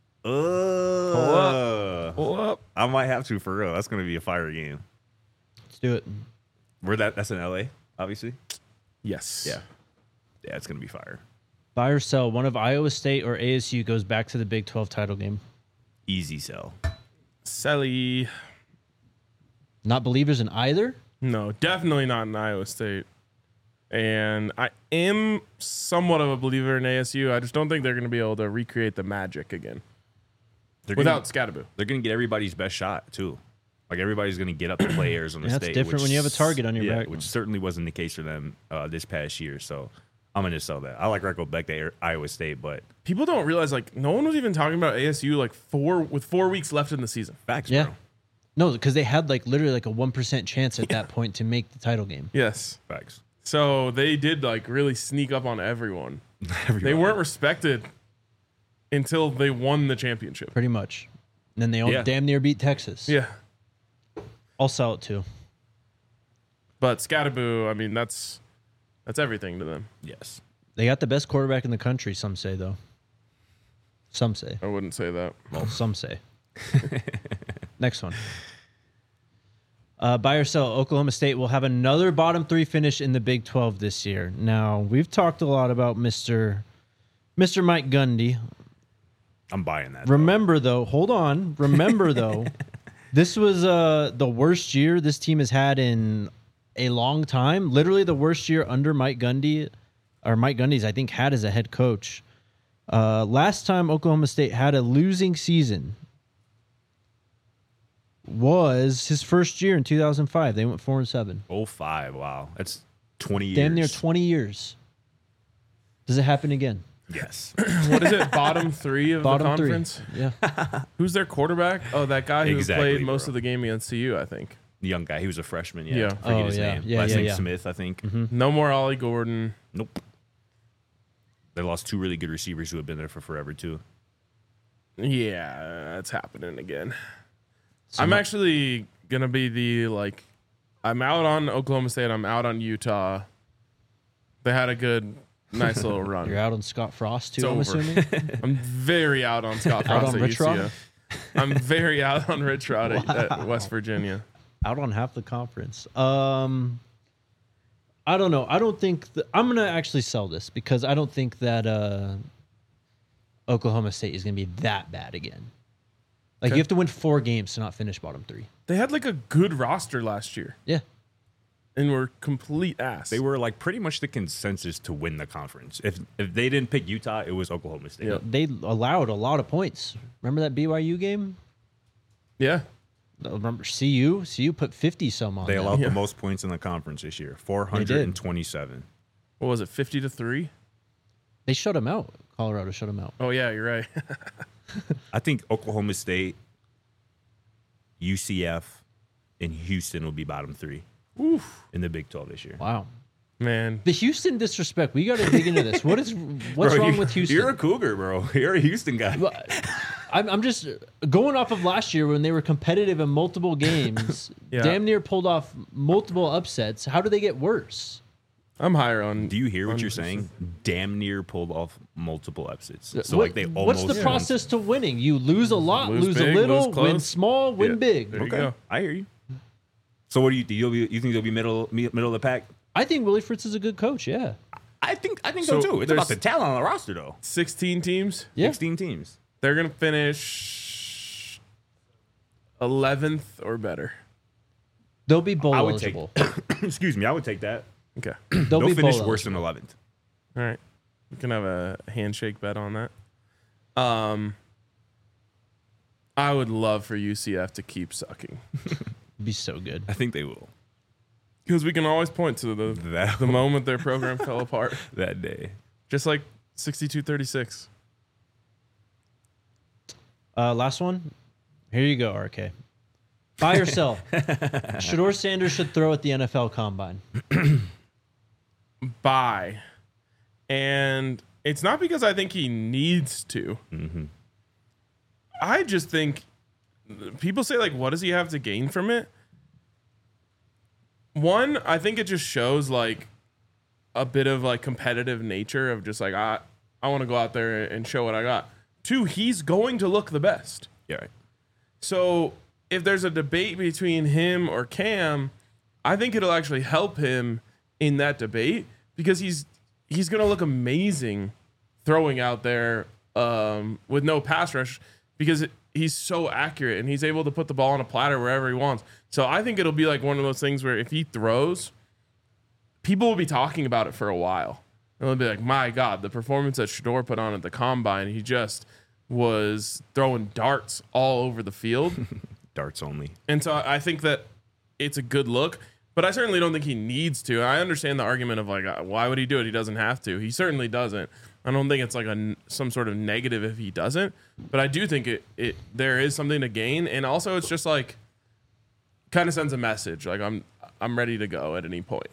[SPEAKER 2] Pull
[SPEAKER 1] Pull up.
[SPEAKER 2] I might have to for real. That's gonna be a fire game.
[SPEAKER 4] Let's do it.
[SPEAKER 2] That's in LA, obviously.
[SPEAKER 1] Yes.
[SPEAKER 2] Yeah, it's gonna be fire.
[SPEAKER 4] Buy or sell. One of Iowa State or ASU goes back to the Big 12 title game.
[SPEAKER 2] Easy sell.
[SPEAKER 1] Selly.
[SPEAKER 4] Not believers in either?
[SPEAKER 1] No, definitely not in Iowa State. And I am somewhat of a believer in ASU. I just don't think they're going to be able to recreate the magic again without Scatterboo.
[SPEAKER 2] They're gonna get everybody's best shot too. Like everybody's gonna get up to play Arizona
[SPEAKER 4] Yeah, that's
[SPEAKER 2] State.
[SPEAKER 4] different when you have a target on your back.
[SPEAKER 2] Which certainly wasn't the case for them this past year. So I'm gonna sell that. I like Recco Beck to Iowa State, but
[SPEAKER 1] People don't realize, like, no one was even talking about ASU like 4 weeks left in the season.
[SPEAKER 2] facts,
[SPEAKER 4] Yeah.
[SPEAKER 2] bro.
[SPEAKER 4] No, because they had like literally like a 1% chance at that point to make the title game.
[SPEAKER 1] Yes.
[SPEAKER 2] Facts.
[SPEAKER 1] So they did like really sneak up on everyone. They
[SPEAKER 2] Everybody.
[SPEAKER 1] weren't respected until they won the championship.
[SPEAKER 4] Pretty much. And then they all
[SPEAKER 2] Yeah.
[SPEAKER 4] damn near beat Texas.
[SPEAKER 1] Yeah.
[SPEAKER 4] I'll sell it too.
[SPEAKER 1] But Scatterboo, I mean, that's everything to them.
[SPEAKER 2] Yes.
[SPEAKER 4] They got the best quarterback in the country, some say, though. Some say.
[SPEAKER 1] I wouldn't say that.
[SPEAKER 4] Well, some say. Next one. Buy or sell. Oklahoma State will have another bottom three finish in the Big 12 this year. Now, we've talked a lot about Mr. Mike Gundy.
[SPEAKER 2] I'm buying that.
[SPEAKER 4] Remember, though, hold on. Remember, though, this was the worst year this team has had in a long time. Literally the worst year under Mike Gundy, or Mike Gundy's, I think, had as a head coach. Last time Oklahoma State had a losing season was his first year in 2005. They went 4-7.
[SPEAKER 2] 05. Wow. That's 20 years.
[SPEAKER 4] Damn near 20 years. Does it happen again?
[SPEAKER 2] Yes.
[SPEAKER 1] What is it? Bottom three of
[SPEAKER 4] Bottom
[SPEAKER 1] the
[SPEAKER 4] three.
[SPEAKER 1] conference?
[SPEAKER 4] Yeah.
[SPEAKER 1] Who's their quarterback? Oh, that guy who
[SPEAKER 2] Exactly,
[SPEAKER 1] played most
[SPEAKER 2] bro.
[SPEAKER 1] of the game against CU, I think.
[SPEAKER 2] The young guy. He was a freshman. Yeah.
[SPEAKER 1] Yeah.
[SPEAKER 2] Forget
[SPEAKER 4] Oh,
[SPEAKER 2] his
[SPEAKER 4] yeah.
[SPEAKER 2] name.
[SPEAKER 4] Yeah,
[SPEAKER 2] Last
[SPEAKER 4] yeah,
[SPEAKER 2] name
[SPEAKER 4] yeah.
[SPEAKER 2] Smith, I think.
[SPEAKER 1] No more Ollie Gordon.
[SPEAKER 2] Nope. They lost two really good receivers who have been there for forever too.
[SPEAKER 1] Yeah, it's happening again.
[SPEAKER 4] So
[SPEAKER 1] I'm
[SPEAKER 4] my-
[SPEAKER 1] actually going to be I'm out on Oklahoma State. I'm out on Utah. They had a good, nice little run.
[SPEAKER 4] You're out on Scott Frost, too,
[SPEAKER 1] It's
[SPEAKER 4] I'm
[SPEAKER 1] over.
[SPEAKER 4] assuming?
[SPEAKER 1] I'm very out on Scott
[SPEAKER 4] Out
[SPEAKER 1] Frost
[SPEAKER 4] on
[SPEAKER 1] at
[SPEAKER 4] Rich Rod?
[SPEAKER 1] UCF. I'm very out on Rich Rod at West Virginia.
[SPEAKER 4] Out on half the conference. I don't know. I don't think I'm going to actually sell this because I don't think that Oklahoma State is going to be that bad again. Like,
[SPEAKER 1] Okay.
[SPEAKER 4] you have to win 4 games to not finish bottom 3.
[SPEAKER 1] They had like a good roster last year
[SPEAKER 4] Yeah.
[SPEAKER 1] and were complete ass.
[SPEAKER 2] They were like pretty much the consensus to win the conference. If they didn't pick Utah, it was Oklahoma State.
[SPEAKER 1] Yep.
[SPEAKER 4] They allowed a lot of points. Remember that BYU game?
[SPEAKER 1] Yeah.
[SPEAKER 4] Remember CU? CU put 50 some on
[SPEAKER 2] They
[SPEAKER 4] them.
[SPEAKER 2] allowed
[SPEAKER 1] Yeah.
[SPEAKER 2] the most points in the conference this year, 427.
[SPEAKER 1] What was it, 50-3?
[SPEAKER 4] They shut them out. Colorado shut them out.
[SPEAKER 1] Oh, yeah, you're right.
[SPEAKER 2] I think Oklahoma State UCF, and Houston will be bottom 3 in the Big 12 this year.
[SPEAKER 4] Wow.
[SPEAKER 1] Man,
[SPEAKER 4] The Houston disrespect. We got to dig into this. What's
[SPEAKER 2] Bro,
[SPEAKER 4] wrong with Houston?
[SPEAKER 2] You're a Cougar, bro. You're a Houston guy.
[SPEAKER 4] Well, I'm just going off of last year when they were competitive in multiple games,
[SPEAKER 1] Yeah.
[SPEAKER 4] damn near pulled off multiple upsets. How do they get worse?
[SPEAKER 1] I'm higher on.
[SPEAKER 2] Do you hear what
[SPEAKER 1] on
[SPEAKER 2] you're
[SPEAKER 1] Houston.
[SPEAKER 2] saying? Damn near pulled off multiple upsets. So like they almost.
[SPEAKER 4] What's the process to winning? You lose a lot,
[SPEAKER 1] Lose
[SPEAKER 4] lose
[SPEAKER 1] big,
[SPEAKER 4] a little,
[SPEAKER 1] lose close.
[SPEAKER 4] win small, win
[SPEAKER 1] Yeah.
[SPEAKER 4] big.
[SPEAKER 1] There you
[SPEAKER 2] Okay,
[SPEAKER 1] go.
[SPEAKER 2] I hear you. So what do you think? You think they'll be middle of the pack?
[SPEAKER 4] I think Willie Fritz is a good coach. Yeah.
[SPEAKER 2] I think so
[SPEAKER 1] So
[SPEAKER 2] too. It's
[SPEAKER 1] there's-
[SPEAKER 2] about the talent on the roster though.
[SPEAKER 1] 16 teams.
[SPEAKER 4] Yeah.
[SPEAKER 2] 16 teams.
[SPEAKER 1] They're gonna finish 11th or better.
[SPEAKER 4] They'll be bowl
[SPEAKER 2] I would take.
[SPEAKER 4] eligible.
[SPEAKER 2] Excuse me. I would take that.
[SPEAKER 1] Okay.
[SPEAKER 4] They'll
[SPEAKER 2] They'll
[SPEAKER 4] be
[SPEAKER 2] finish
[SPEAKER 4] bowl
[SPEAKER 2] worse
[SPEAKER 4] eligible.
[SPEAKER 2] than 11th.
[SPEAKER 1] All right. We can have a handshake bet on that. I would love for UCF to keep sucking
[SPEAKER 4] Be so good.
[SPEAKER 2] I think they will.
[SPEAKER 1] because we can always point to
[SPEAKER 2] That
[SPEAKER 1] the moment their program fell apart,
[SPEAKER 2] that day.
[SPEAKER 1] just like 62-36.
[SPEAKER 4] Last one. Here you go, RK. Buy or sell? Shador Sanders should throw at the NFL Combine.
[SPEAKER 1] Buy, and it's not because I think he needs to. I just think people say like, what does he have to gain from it? One, I think it just shows like a bit of like competitive nature of just like I want to go out there and show what I got. Two, he's going to look the best.
[SPEAKER 2] Yeah. Right.
[SPEAKER 1] So if there's a debate between him or Cam, I think it'll actually help him in that debate because he's going to look amazing throwing out there with no pass rush because he's so accurate and he's able to put the ball on a platter wherever he wants. So I think it'll be like one of those things where if he throws, people will be talking about it for a while. And they'll be like, my God, the performance that Shador put on at the Combine, he just was throwing darts all over the field.
[SPEAKER 2] Darts only.
[SPEAKER 1] And so I think that it's a good look, but I certainly don't think he needs to. I understand the argument of like, why would he do it? He doesn't have to. He certainly doesn't. I don't think it's like some sort of negative if he doesn't, but I do think there is something to gain. And also it's just like kind of sends a message. Like I'm ready to go at any point.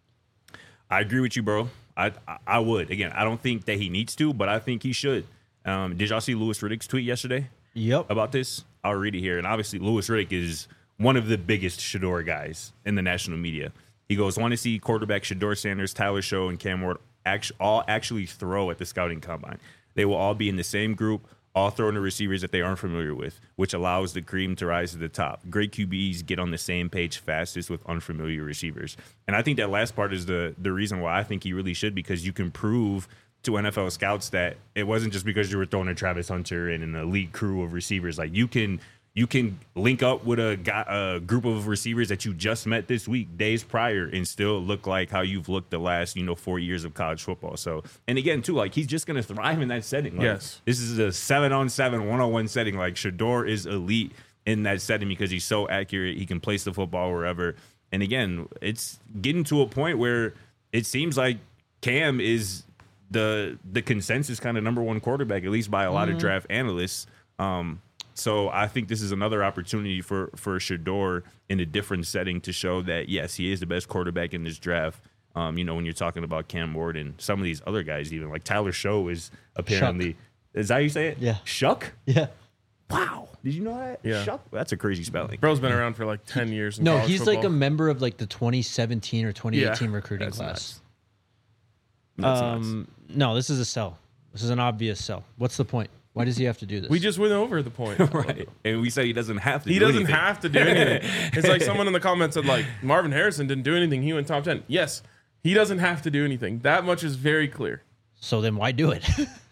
[SPEAKER 2] I agree with you, bro. I would. Again, I don't think that he needs to, but I think he should. Did y'all see Louis Riddick's tweet yesterday
[SPEAKER 4] Yep.
[SPEAKER 2] about this? I'll read it here. And obviously, Louis Riddick is one of the biggest Shador guys in the national media. He goes, want to see quarterback Shador Sanders, Tyler Show, and Cam Ward all actually throw at the scouting combine. They will all be in the same group, all throwing to receivers that they aren't familiar with, which allows the cream to rise to the top. Great QBs get on the same page fastest with unfamiliar receivers. And I think that last part is the reason why I think he really should, because you can prove to NFL scouts that it wasn't just because you were throwing to Travis Hunter and an elite crew of receivers. Like you can link up with a group of receivers that you just met this week, days prior, and still look like how you've looked the last 4 years of college football. So, and again too, like he's just gonna thrive in that setting. Like,
[SPEAKER 1] Yes,
[SPEAKER 2] this is a 7-on-7 1-on-1 setting. Like Shador is elite in that setting because he's so accurate. He can place the football wherever. And again, it's getting to a point where it seems like Cam is the consensus kind of number one quarterback, at least by a lot of draft analysts. So I think this is another opportunity for Shador in a different setting to show that, yes, he is the best quarterback in this draft. When you're talking about Cam Ward and some of these other guys, even like Tyler Show is apparently, is that how you say it?
[SPEAKER 4] Yeah.
[SPEAKER 2] Shuck?
[SPEAKER 4] Yeah.
[SPEAKER 2] Wow. Did you know that?
[SPEAKER 1] Yeah.
[SPEAKER 2] Shuck? That's a crazy spelling.
[SPEAKER 1] bro's been around for like 10 years. In
[SPEAKER 4] No,
[SPEAKER 1] college
[SPEAKER 4] he's like a
[SPEAKER 1] football.
[SPEAKER 4] member of like the 2017 or 2018 recruiting
[SPEAKER 2] That's
[SPEAKER 4] class.
[SPEAKER 2] nuts. That's nuts.
[SPEAKER 4] No, this is a sell. This is an obvious sell. What's the point? Why does he have to do this?
[SPEAKER 1] We just went over the point.
[SPEAKER 2] Right. And we said he doesn't have to
[SPEAKER 1] He
[SPEAKER 2] do
[SPEAKER 1] doesn't
[SPEAKER 2] anything.
[SPEAKER 1] have to do anything. It's like someone in the comments said, like, Marvin Harrison didn't do anything. He went top 10. Yes, he doesn't have to do anything. That much is very clear.
[SPEAKER 4] So then why do it?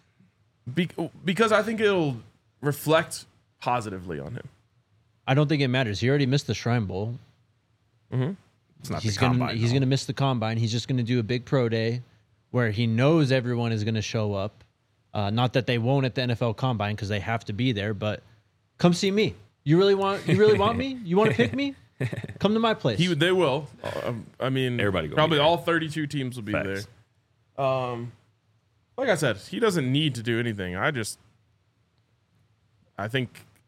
[SPEAKER 1] Because I think it'll reflect positively on him.
[SPEAKER 4] I don't think it matters. He already missed the Shrine Bowl.
[SPEAKER 2] It's not
[SPEAKER 4] He's
[SPEAKER 2] the
[SPEAKER 4] gonna
[SPEAKER 2] combine.
[SPEAKER 4] he's
[SPEAKER 2] though.
[SPEAKER 4] gonna miss the combine. He's just gonna do a big pro day where he knows everyone is gonna show up. Not that they won't at the NFL Combine because they have to be there, but come see me. You really want me? You want to pick me? Come to my place.
[SPEAKER 1] They will. I mean,
[SPEAKER 2] Everybody gonna
[SPEAKER 1] probably
[SPEAKER 2] be there.
[SPEAKER 1] all 32 teams will be
[SPEAKER 2] Facts.
[SPEAKER 1] there. Like I said, he doesn't need to do anything. I think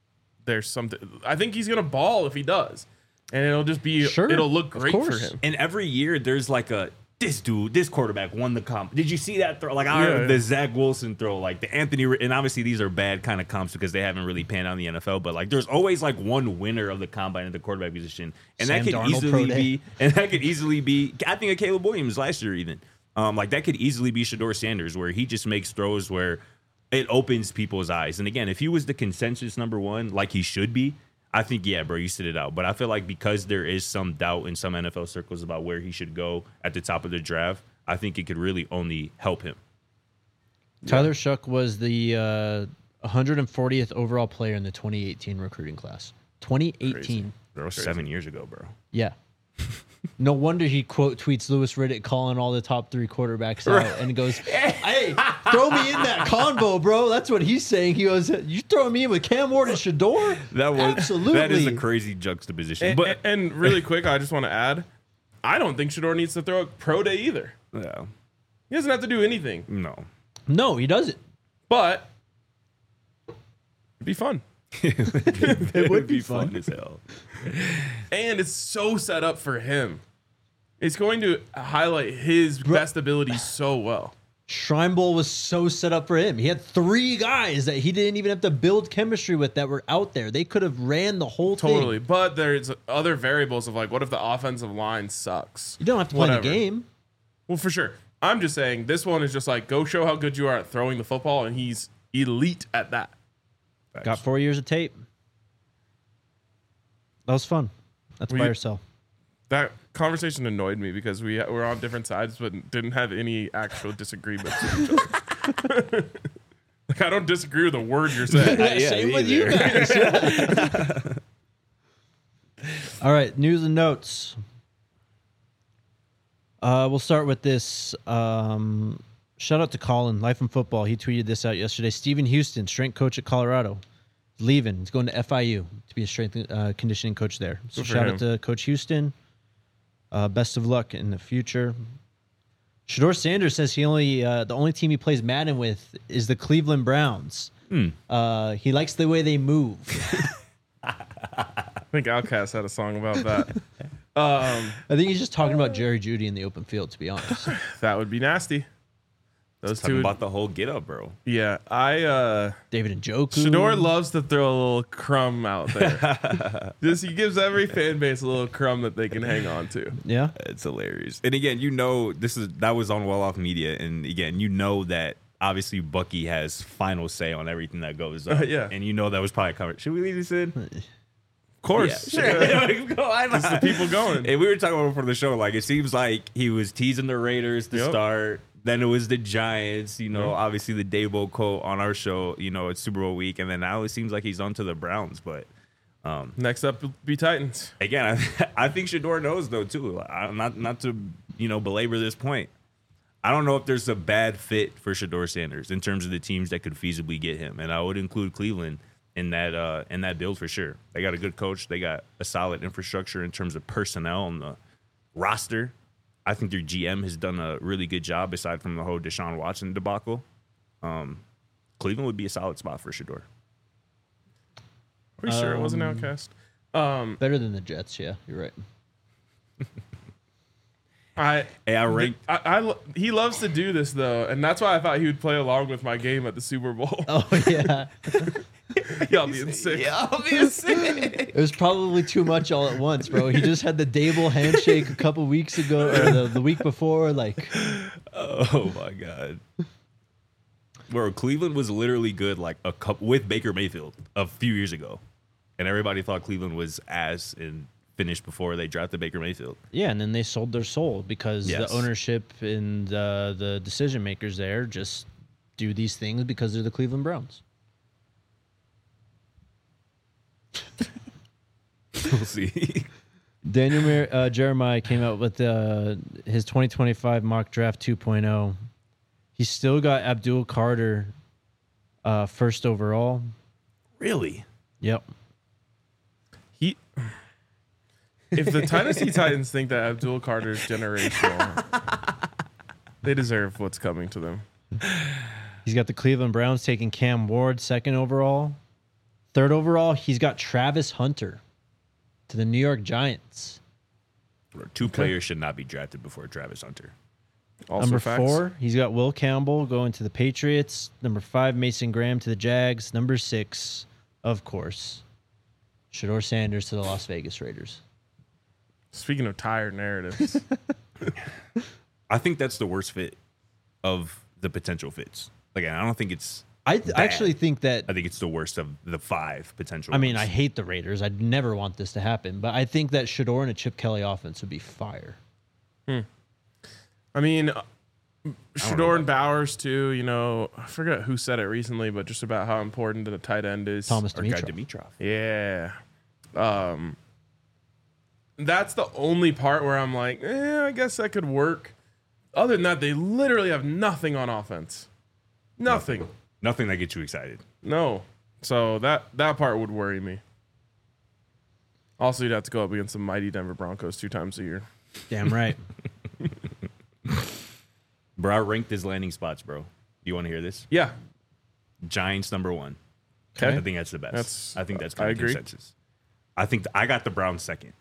[SPEAKER 1] there's something. I think he's gonna ball if he does, and it'll just be.
[SPEAKER 4] Sure,
[SPEAKER 1] it'll look great for
[SPEAKER 4] course.
[SPEAKER 1] him.
[SPEAKER 2] And every year there's like this quarterback won the comp. Did you see that throw? Like
[SPEAKER 1] Yeah.
[SPEAKER 2] the Zach Wilson throw, like the Anthony, and obviously these are bad kind of comps because they haven't really panned out in the NFL. But like, there's always like one winner of the combine at the quarterback position, and
[SPEAKER 4] Sam
[SPEAKER 2] that could
[SPEAKER 4] Darnold
[SPEAKER 2] easily
[SPEAKER 4] Pro Day.
[SPEAKER 2] be, and that could easily be. I think of Caleb Williams last year even. Like that could easily be Shedeur Sanders, where he just makes throws where it opens people's eyes. And again, if he was the consensus number one, like he should be, I think, yeah, bro, you sit it out. But I feel like because there is some doubt in some NFL circles about where he should go at the top of the draft, I think it could really only help him.
[SPEAKER 4] Tyler Shuck was the 140th overall player in the 2018 recruiting class. 2018.
[SPEAKER 1] Crazy.
[SPEAKER 2] That was 7 years ago, bro.
[SPEAKER 4] Yeah. No wonder he quote tweets Louis Riddick calling all the top 3 quarterbacks out and goes, "Hey, throw me in that convo, bro." That's what he's saying. He goes, "You throwing me in with Cam Ward and Shedeur?" Absolutely.
[SPEAKER 2] That is a crazy juxtaposition.
[SPEAKER 1] And really quick, I just want to add, I don't think Shedeur needs to throw a pro day either.
[SPEAKER 2] Yeah,
[SPEAKER 1] He doesn't have to do anything,
[SPEAKER 2] no.
[SPEAKER 4] No, he doesn't.
[SPEAKER 1] but it'd be fun.
[SPEAKER 2] It would be fun as hell.
[SPEAKER 1] And it's so set up for him. It's going to highlight his best abilities so well.
[SPEAKER 4] Shrine Bowl was so set up for him. He had 3 guys that he didn't even have to build chemistry with that were out there. They could have ran the whole
[SPEAKER 1] Totally.
[SPEAKER 4] thing.
[SPEAKER 1] But there's other variables of like, what if the offensive line sucks?
[SPEAKER 4] You don't have to play
[SPEAKER 1] Whatever.
[SPEAKER 4] the game.
[SPEAKER 1] Well, for sure. I'm just saying this one is just like, go show how good you are at throwing the football, and he's elite at that.
[SPEAKER 4] Got 4 years of tape. That was fun. That's buy or sell.
[SPEAKER 1] That conversation annoyed me because we were on different sides but didn't have any actual disagreements with each other. Like, I don't disagree with a word you're saying.
[SPEAKER 4] Same with you guys. All right, news and notes. We'll start with this. Shout out to Colin, Life in Football. He tweeted this out yesterday. Stephen Houston, strength coach at Colorado, leaving. He's going to FIU to be a strength conditioning coach there. So
[SPEAKER 1] Good for
[SPEAKER 4] shout
[SPEAKER 1] him.
[SPEAKER 4] out to Coach Houston. Best of luck in the future. Shedeur Sanders says he the only team he plays Madden with is the Cleveland Browns. He likes the way they move.
[SPEAKER 1] I think Outkast had a song about that.
[SPEAKER 4] I think he's just talking about Jerry Jeudy in the open field, to be honest.
[SPEAKER 1] That would be nasty. Those
[SPEAKER 2] Talking
[SPEAKER 1] two.
[SPEAKER 2] about the whole get up, bro.
[SPEAKER 1] Yeah.
[SPEAKER 4] David Njoku.
[SPEAKER 1] Shedeur loves to throw a little crumb out there. He gives every fan base a little crumb that they can hang on to.
[SPEAKER 4] Yeah.
[SPEAKER 2] It's hilarious. And again, that was on Well Off Media, and again, that obviously Bucky has final say on everything that goes up.
[SPEAKER 1] Yeah.
[SPEAKER 2] And that was probably covered. Should we leave this in?
[SPEAKER 1] Of course.
[SPEAKER 2] Yeah, sure. Why not?
[SPEAKER 1] Just the people going.
[SPEAKER 2] And we were talking about it before the show. Like, it seems like he was teasing the Raiders to start. Then it was the Giants, obviously the Dabo quote on our show, it's Super Bowl week. And then now it seems like he's on to the Browns. But
[SPEAKER 1] Next up will be Titans.
[SPEAKER 2] again, I think Shedeur knows, though, too. Not to, belabor this point. I don't know if there's a bad fit for Shedeur Sanders in terms of the teams that could feasibly get him. And I would include Cleveland in that build for sure. They got a good coach. They got a solid infrastructure in terms of personnel on the roster. I think their GM has done a really good job aside from the whole Deshaun Watson debacle. Cleveland would be a solid spot for Shedeur.
[SPEAKER 1] Are we sure it wasn't Outcast?
[SPEAKER 4] Better than the Jets, yeah. You're right.
[SPEAKER 1] He loves to do this though, and that's why I thought he would play along with my game at the Super Bowl.
[SPEAKER 4] Oh, yeah.
[SPEAKER 1] Y'all being sick.
[SPEAKER 4] It was probably too much all at once, bro. He just had the Dable handshake a couple weeks ago, or the week before. Like,
[SPEAKER 2] Oh my god. Bro, Cleveland was literally good like a couple with Baker Mayfield a few years ago. And everybody thought Cleveland was ass and finished before they drafted Baker Mayfield.
[SPEAKER 4] yeah, and then they sold their soul because
[SPEAKER 2] Yes.
[SPEAKER 4] the ownership and the decision makers there just do these things because they're the Cleveland Browns.
[SPEAKER 2] We'll see.
[SPEAKER 4] Daniel Jeremiah came out with his 2025 mock draft 2.0. He still got Abdul Carter first overall.
[SPEAKER 2] Really?
[SPEAKER 4] Yep.
[SPEAKER 1] If the Tennessee Titans think that Abdul Carter is generational, they deserve what's coming to them.
[SPEAKER 4] He's got the Cleveland Browns taking Cam Ward second overall. Third overall, he's got Travis Hunter to the New York Giants.
[SPEAKER 2] Two players should not be drafted before Travis Hunter.
[SPEAKER 1] Also
[SPEAKER 4] Number
[SPEAKER 1] facts.
[SPEAKER 4] 4, he's got Will Campbell going to the Patriots. Number 5, Mason Graham to the Jags. Number 6, of course, Shedeur Sanders to the Las Vegas Raiders.
[SPEAKER 1] Speaking of tired narratives,
[SPEAKER 2] I think that's the worst fit of the potential fits. Like, I don't think it's.
[SPEAKER 4] I actually think that.
[SPEAKER 2] I think it's the worst of the 5 potential.
[SPEAKER 4] I mean, I
[SPEAKER 2] ones.
[SPEAKER 4] hate the Raiders. I'd never want this to happen, but I think that Shedeur and a Chip Kelly offense would be fire.
[SPEAKER 1] I mean, Shedeur
[SPEAKER 2] know
[SPEAKER 1] and Bowers too. You know, I forget who said it recently, but just about how important the tight end is.
[SPEAKER 4] Thomas
[SPEAKER 2] Or Guy
[SPEAKER 4] Dimitrov.
[SPEAKER 2] Dimitrov.
[SPEAKER 1] Yeah. That's the only part where I'm like, I guess that could work. Other than that, they literally have nothing on offense. Nothing.
[SPEAKER 2] Nothing that gets you excited.
[SPEAKER 1] No. So that part would worry me. Also, you'd have to go up against the mighty Denver Broncos 2 times a year.
[SPEAKER 4] Damn right.
[SPEAKER 2] Bro, I ranked his landing spots, bro. You want to hear this?
[SPEAKER 1] Yeah.
[SPEAKER 2] Giants number 1.
[SPEAKER 1] Okay.
[SPEAKER 2] I think that's the best. I think that's
[SPEAKER 1] I
[SPEAKER 2] kind of
[SPEAKER 1] agree.
[SPEAKER 2] consensus. I think I got the Browns second.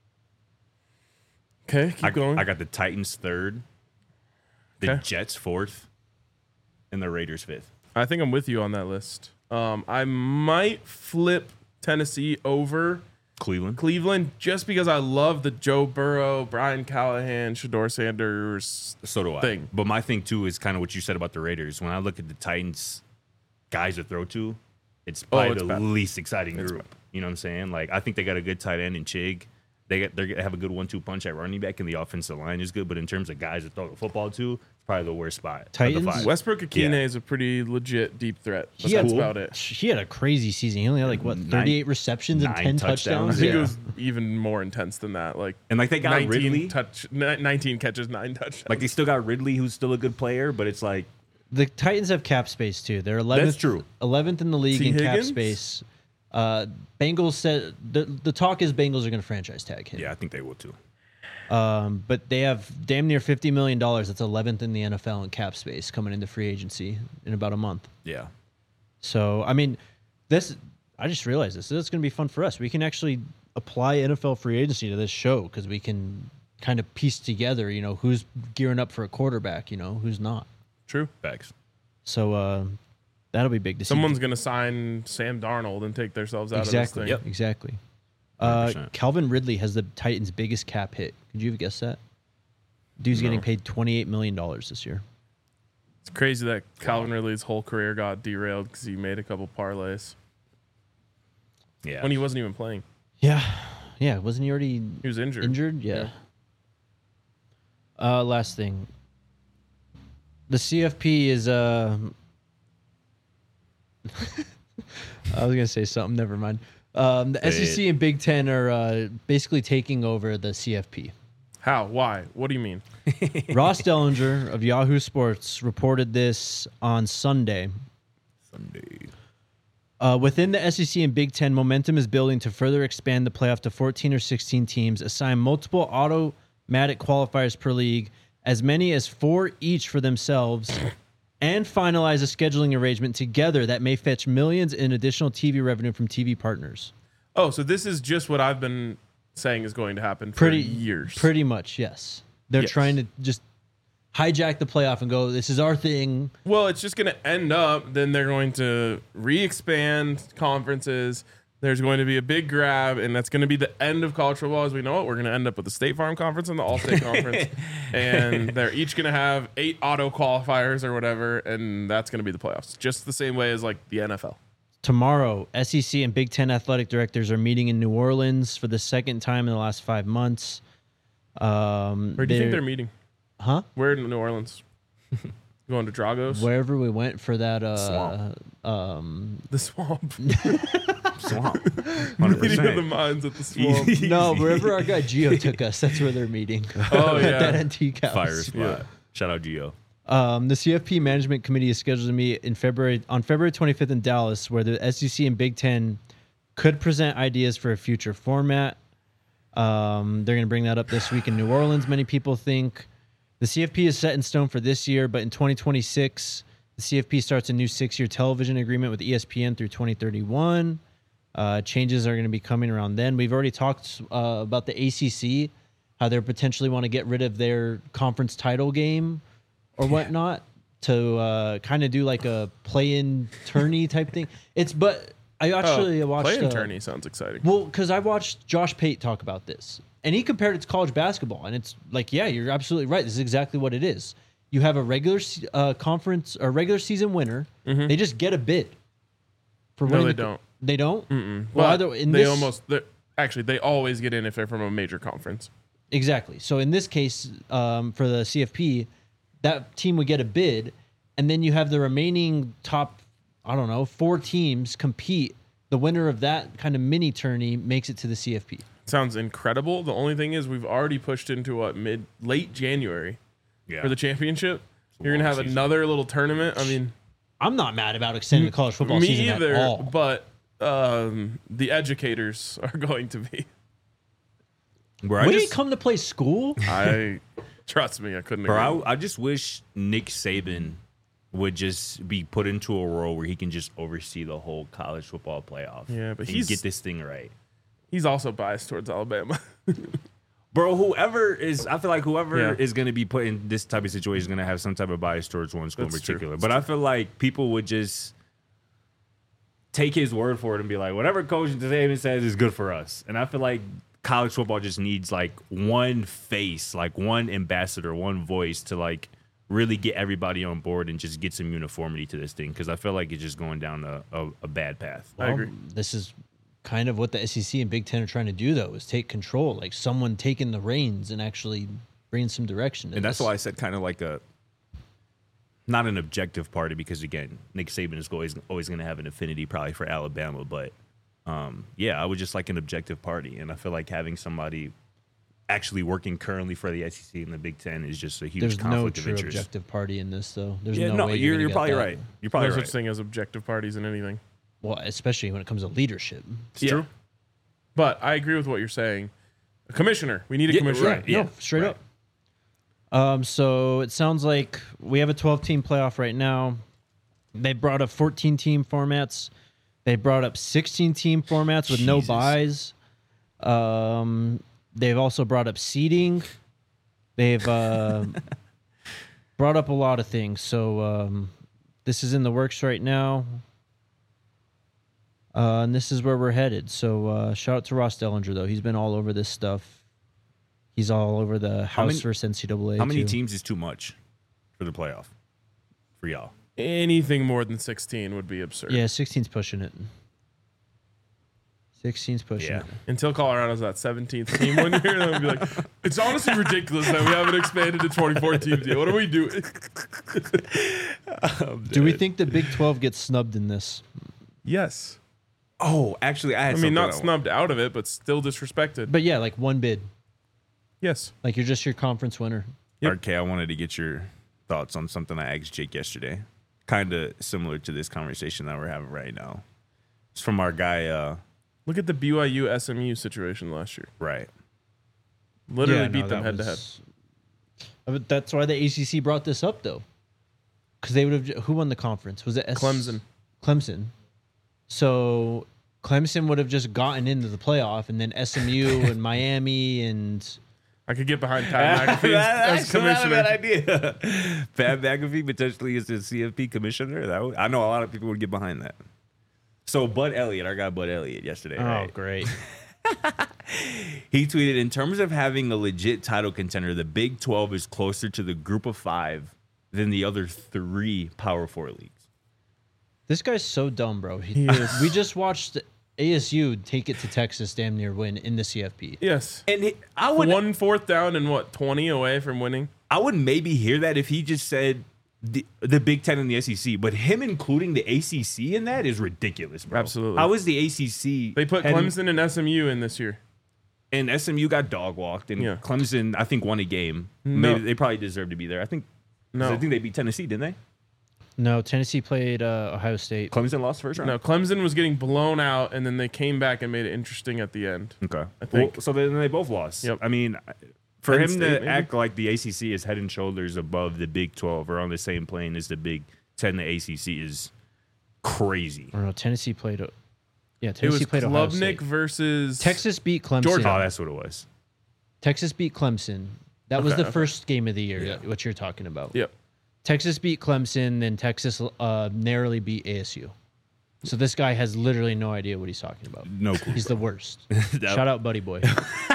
[SPEAKER 1] Okay, keep going.
[SPEAKER 2] I got the Titans third, the
[SPEAKER 1] Okay.
[SPEAKER 2] Jets fourth, and the Raiders fifth.
[SPEAKER 1] I think I'm with you on that list. I might flip Tennessee over
[SPEAKER 2] Cleveland.
[SPEAKER 1] Cleveland just because I love the Joe Burrow, Brian Callahan, Shedeur Sanders
[SPEAKER 2] So do I.
[SPEAKER 1] thing.
[SPEAKER 2] But my thing too is kind of what you said about the Raiders. When I look at the Titans guys to throw to, it's probably
[SPEAKER 1] it's
[SPEAKER 2] the
[SPEAKER 1] bad.
[SPEAKER 2] least exciting group. You know what I'm saying? Like, I think they got a good tight end in Chig. They have a good 1-2 punch at running back, and the offensive line is good. But in terms of guys to throw the football to, it's probably the worst spot. of the
[SPEAKER 4] Titans?
[SPEAKER 2] 5.
[SPEAKER 1] Westbrook Akine
[SPEAKER 2] Yeah.
[SPEAKER 1] is a pretty legit deep threat. But
[SPEAKER 4] He had-
[SPEAKER 1] that's about it.
[SPEAKER 4] He had a crazy season. He only had 38 receptions and
[SPEAKER 2] 9
[SPEAKER 4] 10
[SPEAKER 2] touchdowns.
[SPEAKER 4] touchdowns.
[SPEAKER 1] I think
[SPEAKER 2] Yeah.
[SPEAKER 1] it was even more intense than that. Like
[SPEAKER 2] And like they got
[SPEAKER 1] 19
[SPEAKER 2] Ridley.
[SPEAKER 1] 19 catches, 9 touchdowns.
[SPEAKER 2] Like they still got Ridley, who's still a good player, but it's like
[SPEAKER 4] The Titans have cap space too. They're 11th.
[SPEAKER 2] That's true.
[SPEAKER 4] 11th in the league
[SPEAKER 1] T.
[SPEAKER 4] in cap
[SPEAKER 1] Higgins?
[SPEAKER 4] space. Bengals said the talk is Bengals are going to franchise tag him.
[SPEAKER 2] yeah, I think they will too.
[SPEAKER 4] But they have damn near $50 million. That's 11th in the NFL in cap space coming into free agency in about a month.
[SPEAKER 2] Yeah.
[SPEAKER 4] So I mean, I just realized this. This is going to be fun for us. We can actually apply NFL free agency to this show because we can kind of piece together, who's gearing up for a quarterback, who's not.
[SPEAKER 1] True.
[SPEAKER 2] Facts.
[SPEAKER 4] So that'll be big to see.
[SPEAKER 1] Someone's going to sign Sam Darnold and take themselves out of this thing.
[SPEAKER 2] Yep.
[SPEAKER 4] Exactly.
[SPEAKER 2] 100%.
[SPEAKER 4] Calvin Ridley has the Titans' biggest cap hit. Could you have guessed that? Dude's getting paid $28 million this year.
[SPEAKER 1] It's crazy that Calvin Ridley's whole career got derailed because he made a couple parlays
[SPEAKER 2] Yeah.
[SPEAKER 1] when he wasn't even playing.
[SPEAKER 4] Yeah. Yeah. Wasn't he already
[SPEAKER 1] He was injured.
[SPEAKER 4] injured? Yeah. Last thing. The CFP is I was gonna say something. Never mind. The SEC and Big Ten are basically taking over the CFP.
[SPEAKER 1] How? Why? What do you mean?
[SPEAKER 4] Ross Dellinger of Yahoo Sports reported this on Sunday. Within the SEC and Big Ten, momentum is building to further expand the playoff to 14 or 16 teams, assign multiple automatic qualifiers per league, as many as 4 each for themselves, and finalize a scheduling arrangement together that may fetch millions in additional TV revenue from TV partners.
[SPEAKER 1] Oh, so this is just what I've been saying is going to happen for years.
[SPEAKER 4] Pretty much, yes. They're
[SPEAKER 1] Yes.
[SPEAKER 4] trying to just hijack the playoff and go, this is our thing.
[SPEAKER 1] Well, it's just going to end up, then they're going to re-expand conferences. There's going to be a big grab, and that's going to be the end of college football as we know it. We're going to end up with the State Farm Conference and the All-State Conference, and they're each going to have 8 auto qualifiers or whatever, and that's going to be the playoffs, just the same way as like the NFL.
[SPEAKER 4] Tomorrow, SEC and Big Ten athletic directors are meeting in New Orleans for the second time in the last 5 months.
[SPEAKER 1] Where do you think they're meeting?
[SPEAKER 4] Huh?
[SPEAKER 1] Where in New Orleans? Going to Dragos?
[SPEAKER 4] Wherever we went for that
[SPEAKER 2] Swamp.
[SPEAKER 1] The swamp.
[SPEAKER 2] Swamp.
[SPEAKER 1] Meeting of the
[SPEAKER 2] 100%.
[SPEAKER 1] minds at the swamp.
[SPEAKER 4] No, wherever our guy Gio took us, that's where they're meeting.
[SPEAKER 1] Oh,
[SPEAKER 4] At
[SPEAKER 1] yeah.
[SPEAKER 4] that NT Cows.
[SPEAKER 2] Fire spot.
[SPEAKER 1] Yeah.
[SPEAKER 2] Shout out Gio.
[SPEAKER 4] The CFP Management Committee is scheduled to meet on February 25th in Dallas, where the SEC and Big Ten could present ideas for a future format. They're going to bring that up this week in New Orleans, many people think. The CFP is set in stone for this year, but in 2026, the CFP starts a new 6-year television agreement with ESPN through 2031. Changes are going to be coming around then. We've already talked about the ACC, how they potentially want to get rid of their conference title game or whatnot to kind of do like a play-in tourney type thing. But I actually watched
[SPEAKER 1] play-in tourney sounds exciting.
[SPEAKER 4] Well, because I watched Josh Pate talk about this, and he compared it to college basketball, and it's like, yeah, you're absolutely right. This is exactly what it is. You have a regular conference or regular season winner.
[SPEAKER 1] Mm-hmm.
[SPEAKER 4] They just get a bid for winning.
[SPEAKER 1] No, they don't.
[SPEAKER 4] They don't.
[SPEAKER 1] Mm-mm.
[SPEAKER 4] Well,
[SPEAKER 1] But
[SPEAKER 4] either in
[SPEAKER 1] they
[SPEAKER 4] this,
[SPEAKER 1] actually they always get in if they're from a major conference.
[SPEAKER 4] exactly. So in this case, for the CFP, that team would get a bid, and then you have the remaining top, I don't know, 4 teams compete. The winner of that kind of mini tourney makes it to the CFP.
[SPEAKER 1] Sounds incredible. The only thing is we've already pushed into late January for the championship. You're gonna have another little tournament. I mean,
[SPEAKER 4] I'm not mad about extending the college football
[SPEAKER 1] me
[SPEAKER 4] season
[SPEAKER 1] either.
[SPEAKER 4] at all.
[SPEAKER 1] But the educators are going to be.
[SPEAKER 2] Bro,
[SPEAKER 4] When you come to play school,
[SPEAKER 1] I trust me. I couldn't. Agree.
[SPEAKER 2] Bro, I just wish Nick Saban would just be put into a role where he can just oversee the whole college football playoff.
[SPEAKER 1] Yeah, but
[SPEAKER 2] and get this thing right.
[SPEAKER 1] He's also biased towards Alabama.
[SPEAKER 2] Bro, whoever is
[SPEAKER 1] Yeah.
[SPEAKER 2] is going to be put in this type of situation is going to have some type of bias towards one school
[SPEAKER 1] That's
[SPEAKER 2] in
[SPEAKER 1] true.
[SPEAKER 2] particular.
[SPEAKER 1] That's
[SPEAKER 2] But I feel like people would just take his word for it and be like, whatever Coach Saban says is good for us. And I feel like college football just needs like one face, like one ambassador, one voice to like really get everybody on board and just get some uniformity to this thing. Because I feel like it's just going down a bad path.
[SPEAKER 1] I agree.
[SPEAKER 4] This is kind of what the SEC and Big Ten are trying to do, though, is take control, like someone taking the reins and actually bringing some direction. to
[SPEAKER 2] And that's
[SPEAKER 4] this.
[SPEAKER 2] why I said kind of like not an objective party, because again, Nick Saban is always going to have an affinity probably for Alabama, but yeah, I would just like an objective party, and I feel like having somebody actually working currently for the SEC and the Big Ten is just a huge
[SPEAKER 4] There's no
[SPEAKER 2] conflict of
[SPEAKER 4] true
[SPEAKER 2] interest.
[SPEAKER 4] objective party in this, though. There's
[SPEAKER 2] Yeah,
[SPEAKER 4] no way
[SPEAKER 2] you're
[SPEAKER 4] gonna get
[SPEAKER 2] probably
[SPEAKER 4] that.
[SPEAKER 2] right. You're
[SPEAKER 1] No
[SPEAKER 2] probably
[SPEAKER 1] such
[SPEAKER 2] right.
[SPEAKER 1] thing as objective parties in anything.
[SPEAKER 4] Well, especially when it comes to leadership.
[SPEAKER 2] It's true.
[SPEAKER 1] But I agree with what you're saying. A commissioner. We need a
[SPEAKER 2] Yeah,
[SPEAKER 1] commissioner.
[SPEAKER 2] right. Yeah,
[SPEAKER 4] No, straight
[SPEAKER 2] right.
[SPEAKER 4] up. So it sounds like we have a 12-team playoff right now. They brought up 14-team formats. They brought up 16-team formats with no
[SPEAKER 2] Jesus.
[SPEAKER 4] buys. They've also brought up seeding. They've brought up a lot of things. So this is in the works right now. And this is where we're headed. So shout out to Ross Dellinger, though. He's been all over this stuff. He's all over the House
[SPEAKER 2] many-
[SPEAKER 4] versus NCAA.
[SPEAKER 2] How many
[SPEAKER 4] too.
[SPEAKER 2] teams is too much for the playoff for y'all?
[SPEAKER 1] Anything more than 16 would be absurd.
[SPEAKER 4] Yeah, 16's pushing it. 16's pushing
[SPEAKER 2] Yeah.
[SPEAKER 4] it.
[SPEAKER 1] Until Colorado's that 17th team one year, then we'll be like, it's honestly ridiculous that we haven't expanded to 24 teams yet. What are we doing?
[SPEAKER 4] Do we think the Big 12 gets snubbed in this?
[SPEAKER 1] Yes.
[SPEAKER 2] Oh, actually, I
[SPEAKER 1] I mean, not snubbed out of it, but still disrespected.
[SPEAKER 4] But yeah, like one bid.
[SPEAKER 1] Yes.
[SPEAKER 4] Like you're just your conference winner.
[SPEAKER 1] Yep.
[SPEAKER 2] RK, I wanted to get your thoughts on something I asked Jake yesterday. Kind of similar to this conversation that we're having right now. It's from our guy,
[SPEAKER 1] Look at the BYU SMU situation last year.
[SPEAKER 2] right.
[SPEAKER 1] Literally
[SPEAKER 4] Yeah, no,
[SPEAKER 1] beat them
[SPEAKER 4] that
[SPEAKER 1] head to head.
[SPEAKER 4] was- But that's why the ACC brought this up, though. Because they would have. Who won the conference? Was it
[SPEAKER 1] Clemson.
[SPEAKER 4] Clemson. So Clemson would have just gotten into the playoff, and then SMU and Miami and.
[SPEAKER 1] I could get behind Pat McAfee as commissioner.
[SPEAKER 2] idea. Pat McAfee potentially is the CFP commissioner. I know a lot of people would get behind that. So Bud Elliott, our guy Bud Elliott, yesterday, right?
[SPEAKER 4] Great.
[SPEAKER 2] He tweeted, in terms of having a legit title contender, the Big 12 is closer to the group of 5 than the other 3 Power 4 leagues.
[SPEAKER 4] This guy's so dumb, bro.
[SPEAKER 1] He is.
[SPEAKER 4] We just watched ASU take it to Texas, damn near win in the CFP.
[SPEAKER 1] Yes.
[SPEAKER 2] And I would
[SPEAKER 1] 1 4th down and 20 away from winning.
[SPEAKER 2] I would maybe hear that if he just said the Big 10 and the SEC, but him including the ACC in that is ridiculous, bro.
[SPEAKER 1] Absolutely.
[SPEAKER 2] How is the ACC?
[SPEAKER 1] They put Clemson and SMU in this year.
[SPEAKER 2] And SMU got dog walked, and
[SPEAKER 1] Yeah.
[SPEAKER 2] Clemson, I think, won a game.
[SPEAKER 1] No.
[SPEAKER 2] Maybe they probably deserved to be there. I think they beat Tennessee, didn't they?
[SPEAKER 4] No, Tennessee played Ohio State.
[SPEAKER 2] Clemson lost first round.
[SPEAKER 1] No, Clemson was getting blown out, and then they came back and made it interesting at the end.
[SPEAKER 2] Okay.
[SPEAKER 1] I think.
[SPEAKER 2] Well, so then they both lost.
[SPEAKER 1] Yep.
[SPEAKER 2] I mean, for
[SPEAKER 1] Penn
[SPEAKER 2] him
[SPEAKER 1] State,
[SPEAKER 2] to
[SPEAKER 1] maybe?
[SPEAKER 2] act like the ACC is head and shoulders above the Big 12 or on the same plane as the Big 10, the ACC is crazy.
[SPEAKER 4] I don't know. Tennessee played. Yeah,
[SPEAKER 1] It was
[SPEAKER 4] Tennessee played Ohio
[SPEAKER 1] Klubnik
[SPEAKER 4] State.
[SPEAKER 1] versus
[SPEAKER 4] Texas beat Clemson.
[SPEAKER 1] Georgia.
[SPEAKER 2] Oh, that's what it was.
[SPEAKER 4] Texas beat Clemson. That was
[SPEAKER 1] Okay,
[SPEAKER 4] the
[SPEAKER 1] okay.
[SPEAKER 4] first game of the year,
[SPEAKER 2] Yeah.
[SPEAKER 4] what you're talking about.
[SPEAKER 1] Yep.
[SPEAKER 4] Texas beat Clemson, then Texas narrowly beat ASU. So this guy has literally no idea what he's talking about.
[SPEAKER 2] No clue.
[SPEAKER 4] He's the worst.
[SPEAKER 2] That-
[SPEAKER 4] Shout out, buddy boy.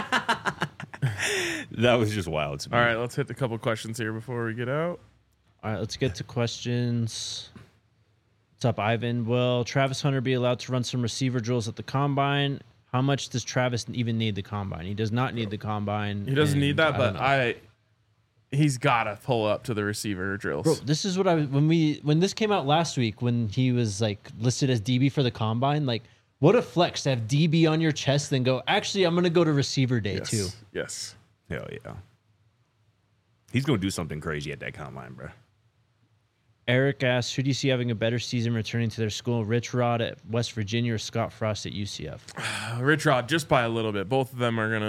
[SPEAKER 2] That was just wild to me.
[SPEAKER 1] All right, let's hit a couple questions here before we get out.
[SPEAKER 4] All right, let's get to questions. What's up, Ivan? Will Travis Hunter be allowed to run some receiver drills at the combine? How much does Travis even need the combine? He does not need the combine.
[SPEAKER 1] He doesn't need
[SPEAKER 4] and
[SPEAKER 1] that,
[SPEAKER 4] I
[SPEAKER 1] but
[SPEAKER 4] don't know.
[SPEAKER 1] he's got to pull up to the receiver drills.
[SPEAKER 4] Bro, this is what when this came out last week, when he was like listed as DB for the combine, like what a flex to have DB on your chest, then go, actually, I'm gonna go to receiver day
[SPEAKER 1] yes.
[SPEAKER 4] too.
[SPEAKER 1] Yes.
[SPEAKER 2] Hell yeah. He's going to do something crazy at that combine, bro.
[SPEAKER 4] Eric asks, who do you see having a better season returning to their school? Rich Rod at West Virginia or Scott Frost at UCF?
[SPEAKER 1] Rich Rod, just by a little bit. Both of them are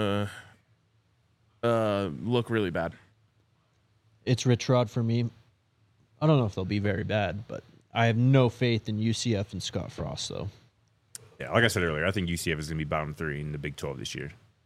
[SPEAKER 1] gonna look really bad.
[SPEAKER 4] It's Rich Rod for me. I don't know if they'll be very bad, but I have no faith in UCF and Scott Frost, though.
[SPEAKER 2] Yeah, like I said earlier, I think UCF is going to be bottom 3 in the Big 12 this year.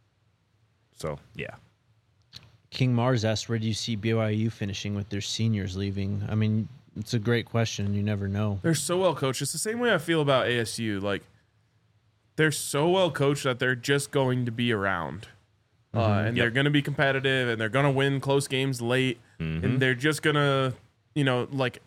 [SPEAKER 2] So, yeah.
[SPEAKER 4] King Mars asked, where do you see BYU finishing with their seniors leaving? I mean, it's a great question. You never know.
[SPEAKER 1] They're so well coached. It's the same way I feel about ASU. Like, they're so well coached that they're just going to be around. And they're going to be competitive, and they're going to win close games late. And they're just going to, like,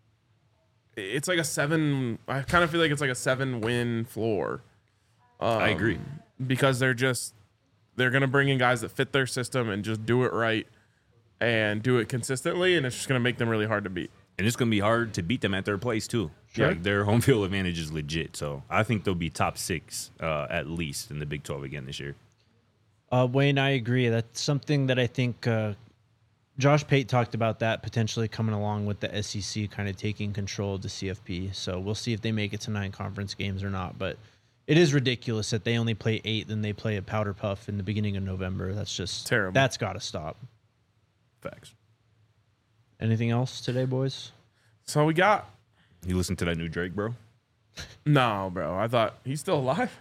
[SPEAKER 1] it's like a 7. I kind of feel like it's like a 7-win floor.
[SPEAKER 2] I agree.
[SPEAKER 1] Because they're going to bring in guys that fit their system and just do it right and do it consistently. And it's just going to make them really hard to beat.
[SPEAKER 2] And it's going to be hard to beat them at their place, too.
[SPEAKER 1] Sure.
[SPEAKER 2] Like, their home field advantage is legit. So, I think they'll be top 6 at least in the Big 12 again this year.
[SPEAKER 4] Wayne, I agree. That's something that I think Josh Pate talked about, that potentially coming along with the SEC kind of taking control of the CFP. So we'll see if they make it to 9 conference games or not. But it is ridiculous that they only play 8, then they play a powder puff in the beginning of November. That's just
[SPEAKER 1] Terrible.
[SPEAKER 4] That's got to stop.
[SPEAKER 2] Facts.
[SPEAKER 4] Anything else today, boys?
[SPEAKER 1] That's all we got.
[SPEAKER 2] You listen to that new Drake, bro?
[SPEAKER 1] No, bro. I thought he's still alive.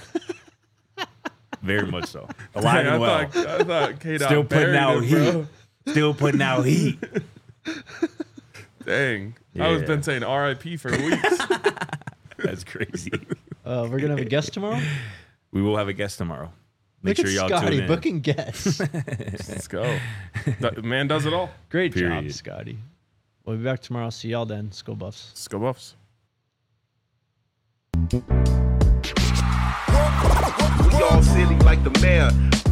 [SPEAKER 2] Very much so. Alive
[SPEAKER 1] Dang,
[SPEAKER 2] and well.
[SPEAKER 1] I thought K-Dot
[SPEAKER 2] Still putting
[SPEAKER 1] buried
[SPEAKER 2] out
[SPEAKER 1] him,
[SPEAKER 2] heat.
[SPEAKER 1] bro.
[SPEAKER 2] Still putting out heat.
[SPEAKER 1] Dang. I was
[SPEAKER 2] Yeah.
[SPEAKER 1] been saying RIP for weeks.
[SPEAKER 2] That's crazy.
[SPEAKER 4] We're going to have a guest tomorrow?
[SPEAKER 2] We will have a guest tomorrow. Make
[SPEAKER 4] Look
[SPEAKER 2] sure
[SPEAKER 4] at
[SPEAKER 2] y'all
[SPEAKER 4] Scotty
[SPEAKER 2] tune in.
[SPEAKER 4] booking guests.
[SPEAKER 1] Let's go. The man does it all.
[SPEAKER 4] Great job,
[SPEAKER 2] Period.
[SPEAKER 4] Scotty. We'll be back tomorrow. See y'all then. Skull Buffs.
[SPEAKER 1] Let's go Buffs.
[SPEAKER 5] We all silly like the mayor.